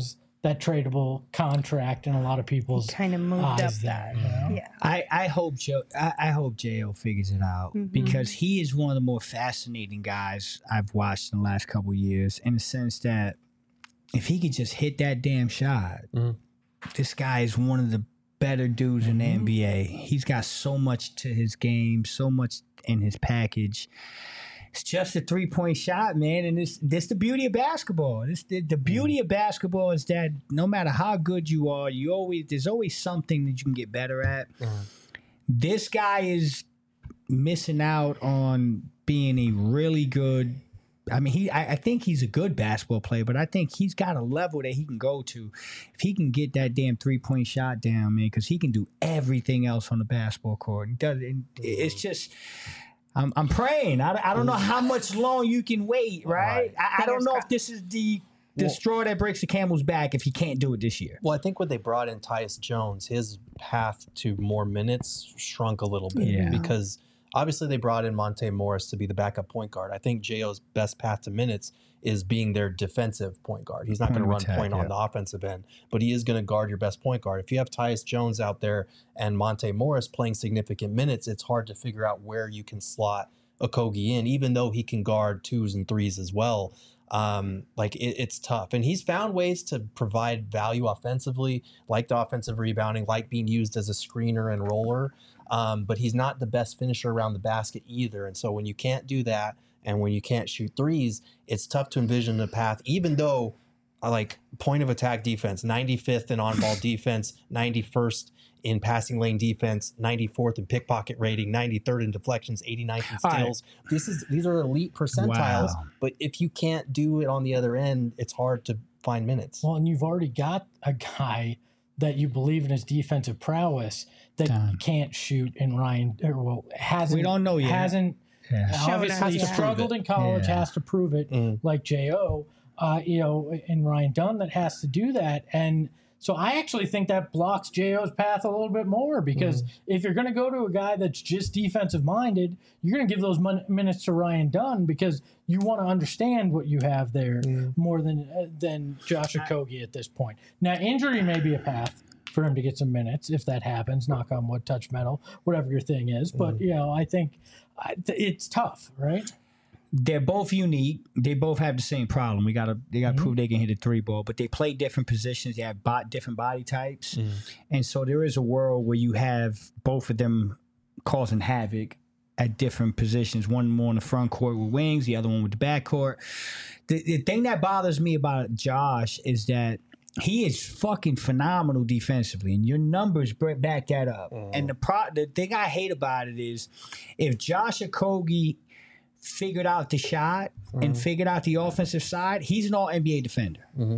that tradable contract in a lot of people's Kind of moved eyes up there. that. You know? Yeah. I, I hope Joe I, I hope J O figures it out Mhm. because he is one of the more fascinating guys I've watched in the last couple of years in the sense that if he could just hit that damn shot, Mhm. this guy is one of the better dudes in the N B A. He's got so much to his game, so much in his package. It's just a three point shot, man, and this this the beauty of basketball. This the, the beauty of basketball is that no matter how good you are, you always there's always something that you can get better at. Mhm. This guy is missing out on being a really good. I mean, he. I, I think he's a good basketball player, but I think he's got a level that he can go to if he can get that damn three point shot down, man. Because he can do everything else on the basketball court. He does. And it's just. I'm, I'm praying. I, I don't know how much long you can wait, right? Right. I, I don't Fingers know crossed. if this is the the Well- straw that breaks the camel's back if he can't do it this year. Well, I think when they brought in Tyus Jones, his path to more minutes shrunk a little bit Yeah. because obviously they brought in Monte Morris to be the backup point guard. I think J O's best path to minutes is being their defensive point guard. He's not Point going to of run attack, point yeah. on the offensive end, but he is going to guard your best point guard. If you have Tyus Jones out there and Monte Morris playing significant minutes, it's hard to figure out where you can slot Okogie in, even though he can guard twos and threes as well. Um, like it, it's tough, and he's found ways to provide value offensively, like the offensive rebounding, like being used as a screener and roller. Um, but he's not the best finisher around the basket either. And so when you can't do that, and when you can't shoot threes, it's tough to envision a path. Even though, uh, like point of attack defense, ninety-fifth in on ball defense, ninety-first in passing lane defense, ninety-fourth in pickpocket rating, ninety-third in deflections, eighty-ninth in All right. steals. This is these are elite percentiles. Wow. But if you can't do it on the other end, it's hard to find minutes. Well, and you've already got a guy that you believe in his defensive prowess that Done. can't shoot in Ryan, or well, hasn't. We don't know yet. Hasn't Yeah. Shown obviously us, yeah. struggled in college, Yeah. has to prove it, Mm. like J O, uh, you know, and Ryan Dunn that has to do that. And so I actually think that blocks J O's path a little bit more because if you're going to go to a guy that's just defensive minded, you're going to give those mon- minutes to Ryan Dunn because you want to understand what you have there more than uh, than Josh Okogie at this point. Now, injury may be a path for him to get some minutes if that happens. Knock on wood, touch metal, whatever your thing is. But you know, I think I, th- it's tough, right? They're both unique. They both have the same problem. We gotta they gotta prove they can hit a three ball, but they play different positions. They have bo- different body types, and so there is a world where you have both of them causing havoc at different positions. One more in the front court with wings, the other one with the back court. The, the thing that bothers me about Josh is that he is fucking phenomenal defensively, and your numbers br- back that up. And the pro- the thing I hate about it is if Josh Okogie figured out the shot and figured out the offensive side, he's an all N B A defender.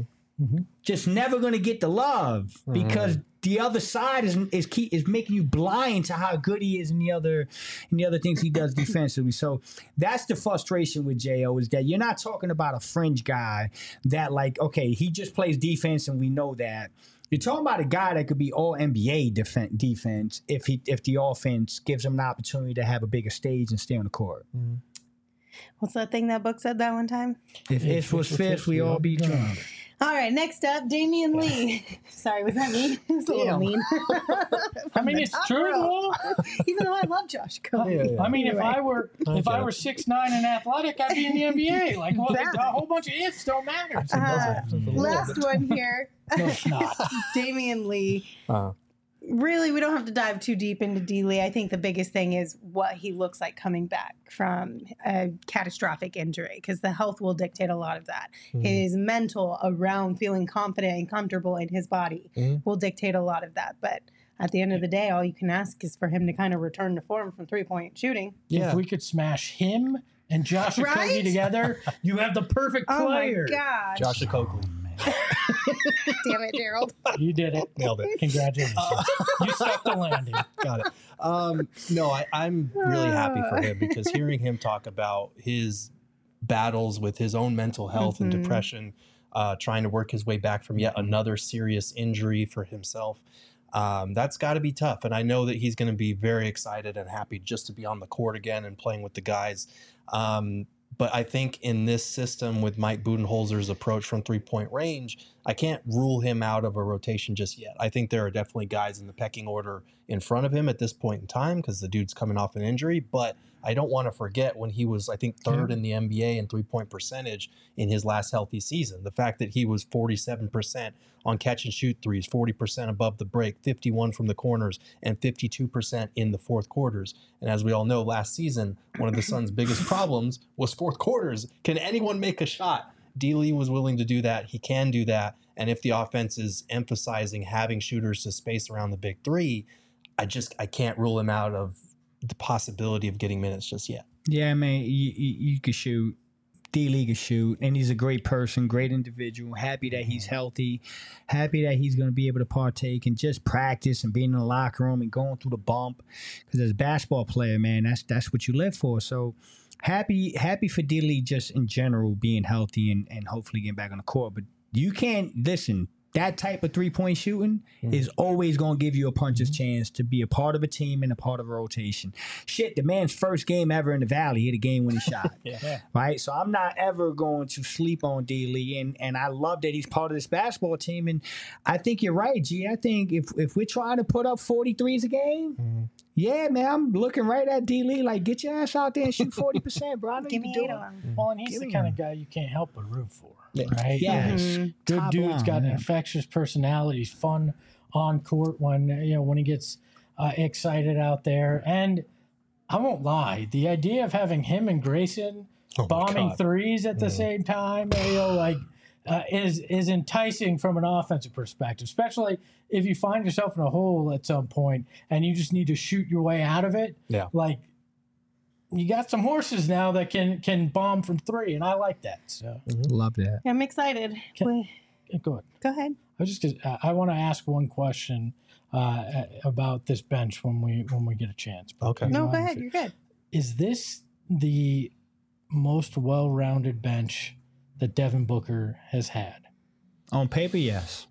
Just never going to get the love because the other side is is key, is making you blind to how good he is in the other in the other things he does defensively. So that's the frustration with J O is that you're not talking about a fringe guy that like okay he just plays defense and we know that. You're talking about a guy that could be all N B A defen- defense if he if the offense gives him an opportunity to have a bigger stage and stay on the court. What's that thing that book said that one time? If it was fifth, we all be drunk. All right, next up, Damian Lee. Sorry, was that mean? It was a little Damn. mean. I mean, it's true. though. Even though I love Josh Okogie. I mean, if Anyway. I were if I were six nine and athletic, I'd be in the N B A. Like, well, That. a whole bunch of ifs don't matter. Uh, last one here. No, it's not. Damian Lee. Uh, Really, we don't have to dive too deep into D. Lee. I think the biggest thing is what he looks like coming back from a catastrophic injury, because the health will dictate a lot of that. Mhm. His mental around feeling confident and comfortable in his body Mhm. will dictate a lot of that. But at the end of the day, all you can ask is for him to kind of return to form from three-point shooting. yeah. If we could smash him and Josh Right? Okogie together, you have the perfect Oh my player. gosh. Josh Okogie. Damn it, Gerald. You did it. Nailed it. Congratulations. you stuck the landing. Got it. Um, no, I, I'm really happy for him because hearing him talk about his battles with his own mental health and Mhm. depression, uh, trying to work his way back from yet another serious injury for himself, um, that's got to be tough. And I know that he's going to be very excited and happy just to be on the court again and playing with the guys. Um, But I think in this system with Mike Budenholzer's approach from three-point range, I can't rule him out of a rotation just yet. I think there are definitely guys in the pecking order in front of him at this point in time because the dude's coming off an injury. But I don't want to forget when he was, I think, third in the N B A in three-point percentage in his last healthy season. The fact that he was forty-seven percent on catch-and-shoot threes, forty percent above the break, fifty-one from the corners, and fifty-two percent in the fourth quarters. And as we all know, last season, one of the Suns' biggest problems was fourth quarters. Can anyone make a shot? D. Lee was willing to do that. He can do that. And if the offense is emphasizing having shooters to space around the big three, I just I can't rule him out of the possibility of getting minutes just yet. Yeah, man, you, you, you could shoot. D. Lee could shoot, and he's a great person, great individual. Happy that he's healthy. Happy that he's going to be able to partake and just practice and being in the locker room and going through the bump. Because as a basketball player, man, that's that's what you live for. So happy happy for D. Lee just in general being healthy and, and hopefully getting back on the court. But you can't, listen, that type of three-point shooting mm. is always going to give you a puncher's mm. chance to be a part of a team and a part of a rotation. Shit, the man's first game ever in the Valley hit a game-winning shot. yeah. Right? So I'm not ever going to sleep on D. Lee, and, and I love that he's part of this basketball team. And I think you're right, G. I think if, if we're trying to put up forty-threes a game, mm. yeah, man, I'm looking right at D. Lee like, get your ass out there and shoot forty percent, bro. I know Give you me can eight do of it. them. Well, and he's Give the me kind one. of guy you can't help but root for, Yeah. right? Yes. Mm-hmm. Good Top dude's line, got an yeah. infectious personality. He's fun on court when you know when he gets uh, excited out there. And I won't lie, the idea of having him and Grayson Oh my bombing God. threes at the Mm. same time, you know, like uh, is is enticing from an offensive perspective, especially if you find yourself in a hole at some point and you just need to shoot your way out of it. Yeah. Like you got some horses now that can can bomb from three, and I like that. So Love that. I'm excited. Can- Wait, go ahead. go ahead. I was just uh, I want to ask one question uh, about this bench when we when we get a chance. But Okay. you No, know, go I'm ahead. fi- You're good. Is this the most well-rounded bench that Devin Booker has had? On paper, yes.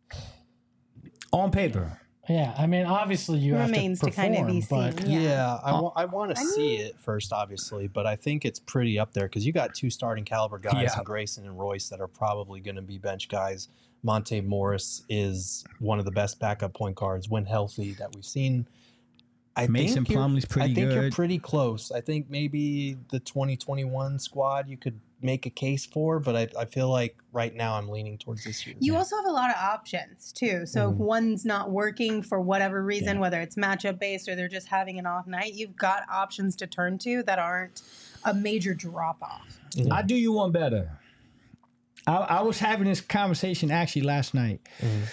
On paper. Yeah, I mean, obviously you Remains have to to kind perform, of be but seen. Yeah, Yeah. I, wa- I want to I see mean- it first, obviously, but I think it's pretty up there because you got two starting caliber guys Yeah. in Grayson and Royce that are probably going to be bench guys. Monte Morris is one of the best backup point guards when healthy that we've seen. I Mason think you're- Plumlee's pretty I think you're good. pretty close. I think maybe the twenty twenty-one squad you could make a case for, but I, I feel like right now I'm leaning towards this year. You also have a lot of options too. So if Mhm. one's not working for whatever reason, Yeah. whether it's matchup based or they're just having an off night, you've got options to turn to that aren't a major drop off. I do you one better. I, I was having this conversation actually last night. Mhm.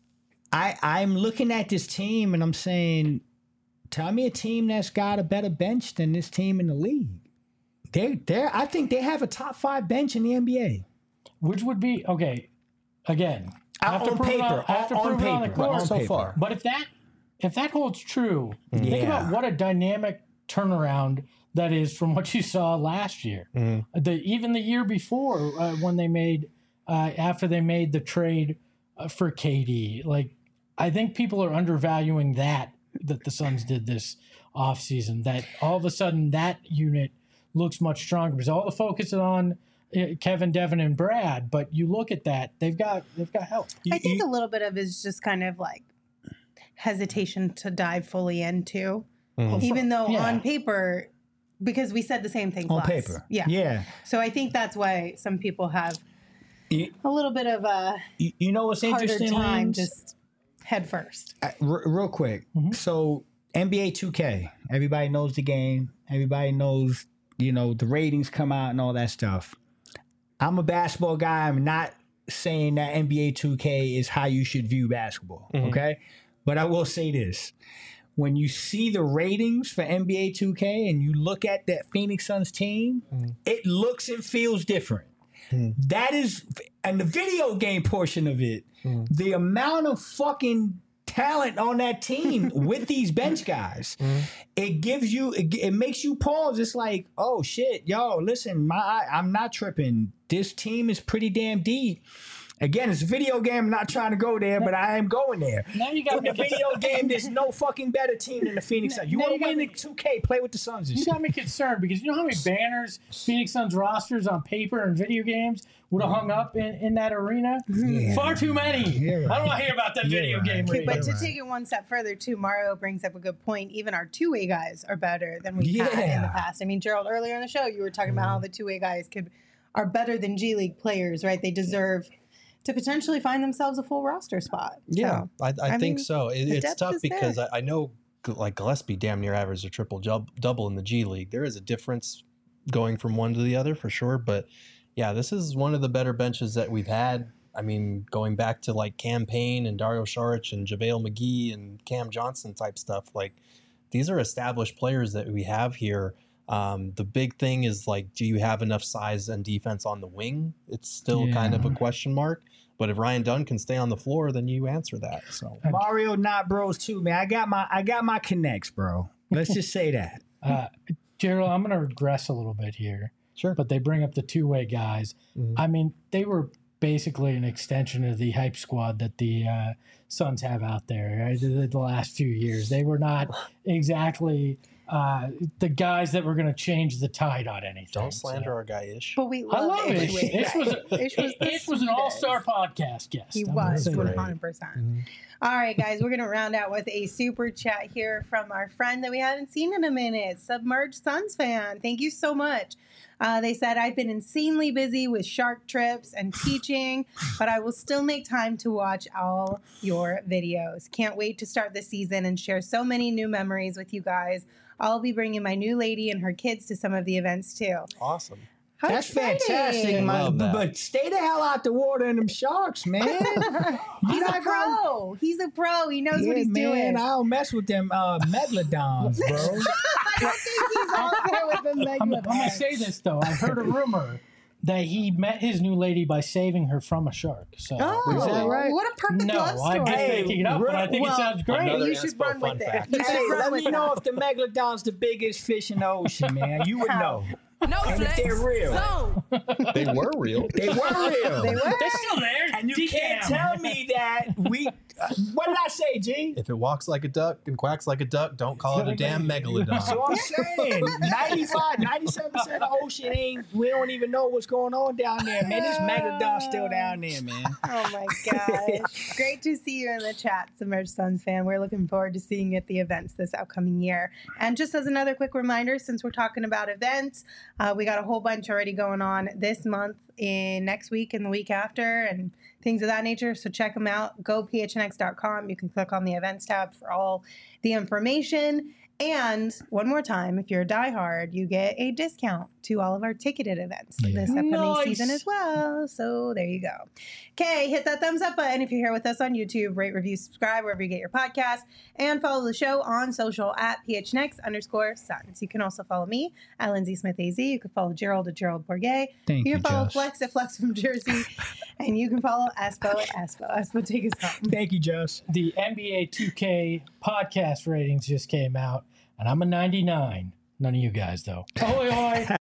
I, I'm looking at this team and I'm saying, tell me a team that's got a better bench than this team in the league. They, they're, I think they have a top five bench in the N B A. which would be okay. Again, I have to on prove it paper, on, I have to on prove it on the paper, court. on so paper. far. But if that if that holds true, think Yeah. about what a dynamic turnaround that is from what you saw last year. Mhm. The even the year before uh, when they made uh, after they made the trade uh, for K D. Like I think people are undervaluing that that the Suns did this offseason. That all of a sudden that unit looks much stronger because all the focus is on uh, Kevin, Devin, and Brad. But you look at that, they've got they've got help. I think a little bit of it is just kind of like hesitation to dive fully into, Mhm. even though Yeah. on paper, because we said the same thing On last. paper. Yeah. Yeah. So I think that's why some people have You, a little bit of a you, you know what's harder interesting, time Lance? just head first. Uh, r- real quick. Mhm. So N B A two K, everybody knows the game. Everybody knows, you know, the ratings come out and all that stuff. I'm a basketball guy. I'm not saying that N B A two K is how you should view basketball. Mhm. Okay. But I will say this. When you see the ratings for N B A two K and you look at that Phoenix Suns team, Mhm. it looks and feels different. Mhm. That is, and the video game portion of it, Mhm. the amount of fucking talent on that team with these bench guys, Mhm. it gives you, it, it makes you pause. It's like, oh shit, yo, listen, my, I'm not tripping. This team is pretty damn deep. Again, it's a video game. I'm not trying to go there, but I am going there. Now you got In me. the video game, there's no fucking better team than the Phoenix Suns. You Now want you to got win me- the two K, play with the Suns and You shit. got me concerned because you know how many banners Phoenix Suns rosters on paper and video games would have hung up in, in that arena? Yeah. Far too many. You're right. I don't want to hear about that You're video right. game Okay, arena. but to Right. take it one step further, too, Mario brings up a good point. Even our two-way guys are better than we've had in the Yeah. past. I mean, Gerald, earlier in the show, you were talking about how the two-way guys could are better than G League players, right? They deserve to potentially find themselves a full roster spot. Yeah, So, I, I, I think mean, so. It, the it's depth tough is because there. I, I know g- like Gillespie damn near averaged a triple jub, double in the G League. There is a difference going from one to the other for sure. But yeah, this is one of the better benches that we've had. I mean, going back to like Cam Payne and Dario Saric and JaVale McGee and Cam Johnson type stuff. Like these are established players that we have here. Um, the big thing is like, do you have enough size and defense on the wing? It's still kind of a Yeah. question mark. But if Ryan Dunn can stay on the floor, then you answer that. So Mario not bros too, man. I got my I got my connects, bro. Let's just say that. Uh, Gerald, I'm going to regress a little bit here, sure. but they bring up the two-way guys. Mhm. I mean, they were basically an extension of the hype squad that the uh, Suns have out there, right? The, the last few years. They were not exactly uh, the guys that were going to change the tide on anything. Don't so. slander our guy Ish. but we I love love Ish. Ish. Ish was, a, Ish was, the Ish was an all-star sweetest. podcast guest. He I'm gonna was say one that. hundred percent. Mhm. All right, guys, we're going to round out with a super chat here from our friend that we haven't seen in a minute, Submerged Suns fan. Thank you so much. Uh, they said, I've been insanely busy with shark trips and teaching, but I will still make time to watch all your videos. Can't wait to start the season and share so many new memories with you guys. I'll be bringing my new lady and her kids to some of the events too. Awesome. How That's exciting. fantastic, man. Love that. But stay the hell out the water and them sharks, man. He's You're a not gonna- pro. He's a pro. He knows Yeah, what he's man, doing. I don't mess with them uh, megalodons, bro. I don't think he's on there with the I'm, I'm megalodon. going to say this, though. I've heard a rumor that he met his new lady by saving her from a shark. So Oh, Is that right? what a perfect No, love I'm story. just Hey, making it up, but I think well, it sounds great. another you should inspo run with fun it. fact. You should Hey, run let with me know that. if the megalodon's the biggest fish in the ocean, man. You would How? know. No And if flex. they're real. Zone. They were real. They were real. They were. They're still there. And you can't Decam. tell me that we. Uh, what did I say, G? If it walks like a duck and quacks like a duck, don't call it a damn megalodon. So I'm saying ninety-five, ninety-seven percent of the ocean ain't, we don't even know what's going on down there, man. This megalodon's still down there, man. Oh my gosh. Great to see you in the chat, Submerged Suns fan. We're looking forward to seeing you at the events this upcoming year. And just as another quick reminder, since we're talking about events, uh, we got a whole bunch already going on this month, in next week and the week after, and things of that nature. So check them out. Go P H N X dot com. You can click on the events tab for all the information. And one more time, if you're a diehard, you get a discount to all of our ticketed events Yeah. this upcoming Nice. season as well. So there you go. Okay, hit that thumbs up button if you're here with us on YouTube. Rate, review, subscribe wherever you get your podcast, and follow the show on social at P H N X underscore Suns. You can also follow me at Lindsay Smith A Z. You can follow Gerald at Gerald Bourget. Thank You you, can follow Josh. Flex at Flex from Jersey, and you can follow Espo at Espo. Espo, take us home. Thank you, Josh. The N B A two K podcast ratings just came out, and I'm a ninety-nine. None of you guys, though. Oi, oi.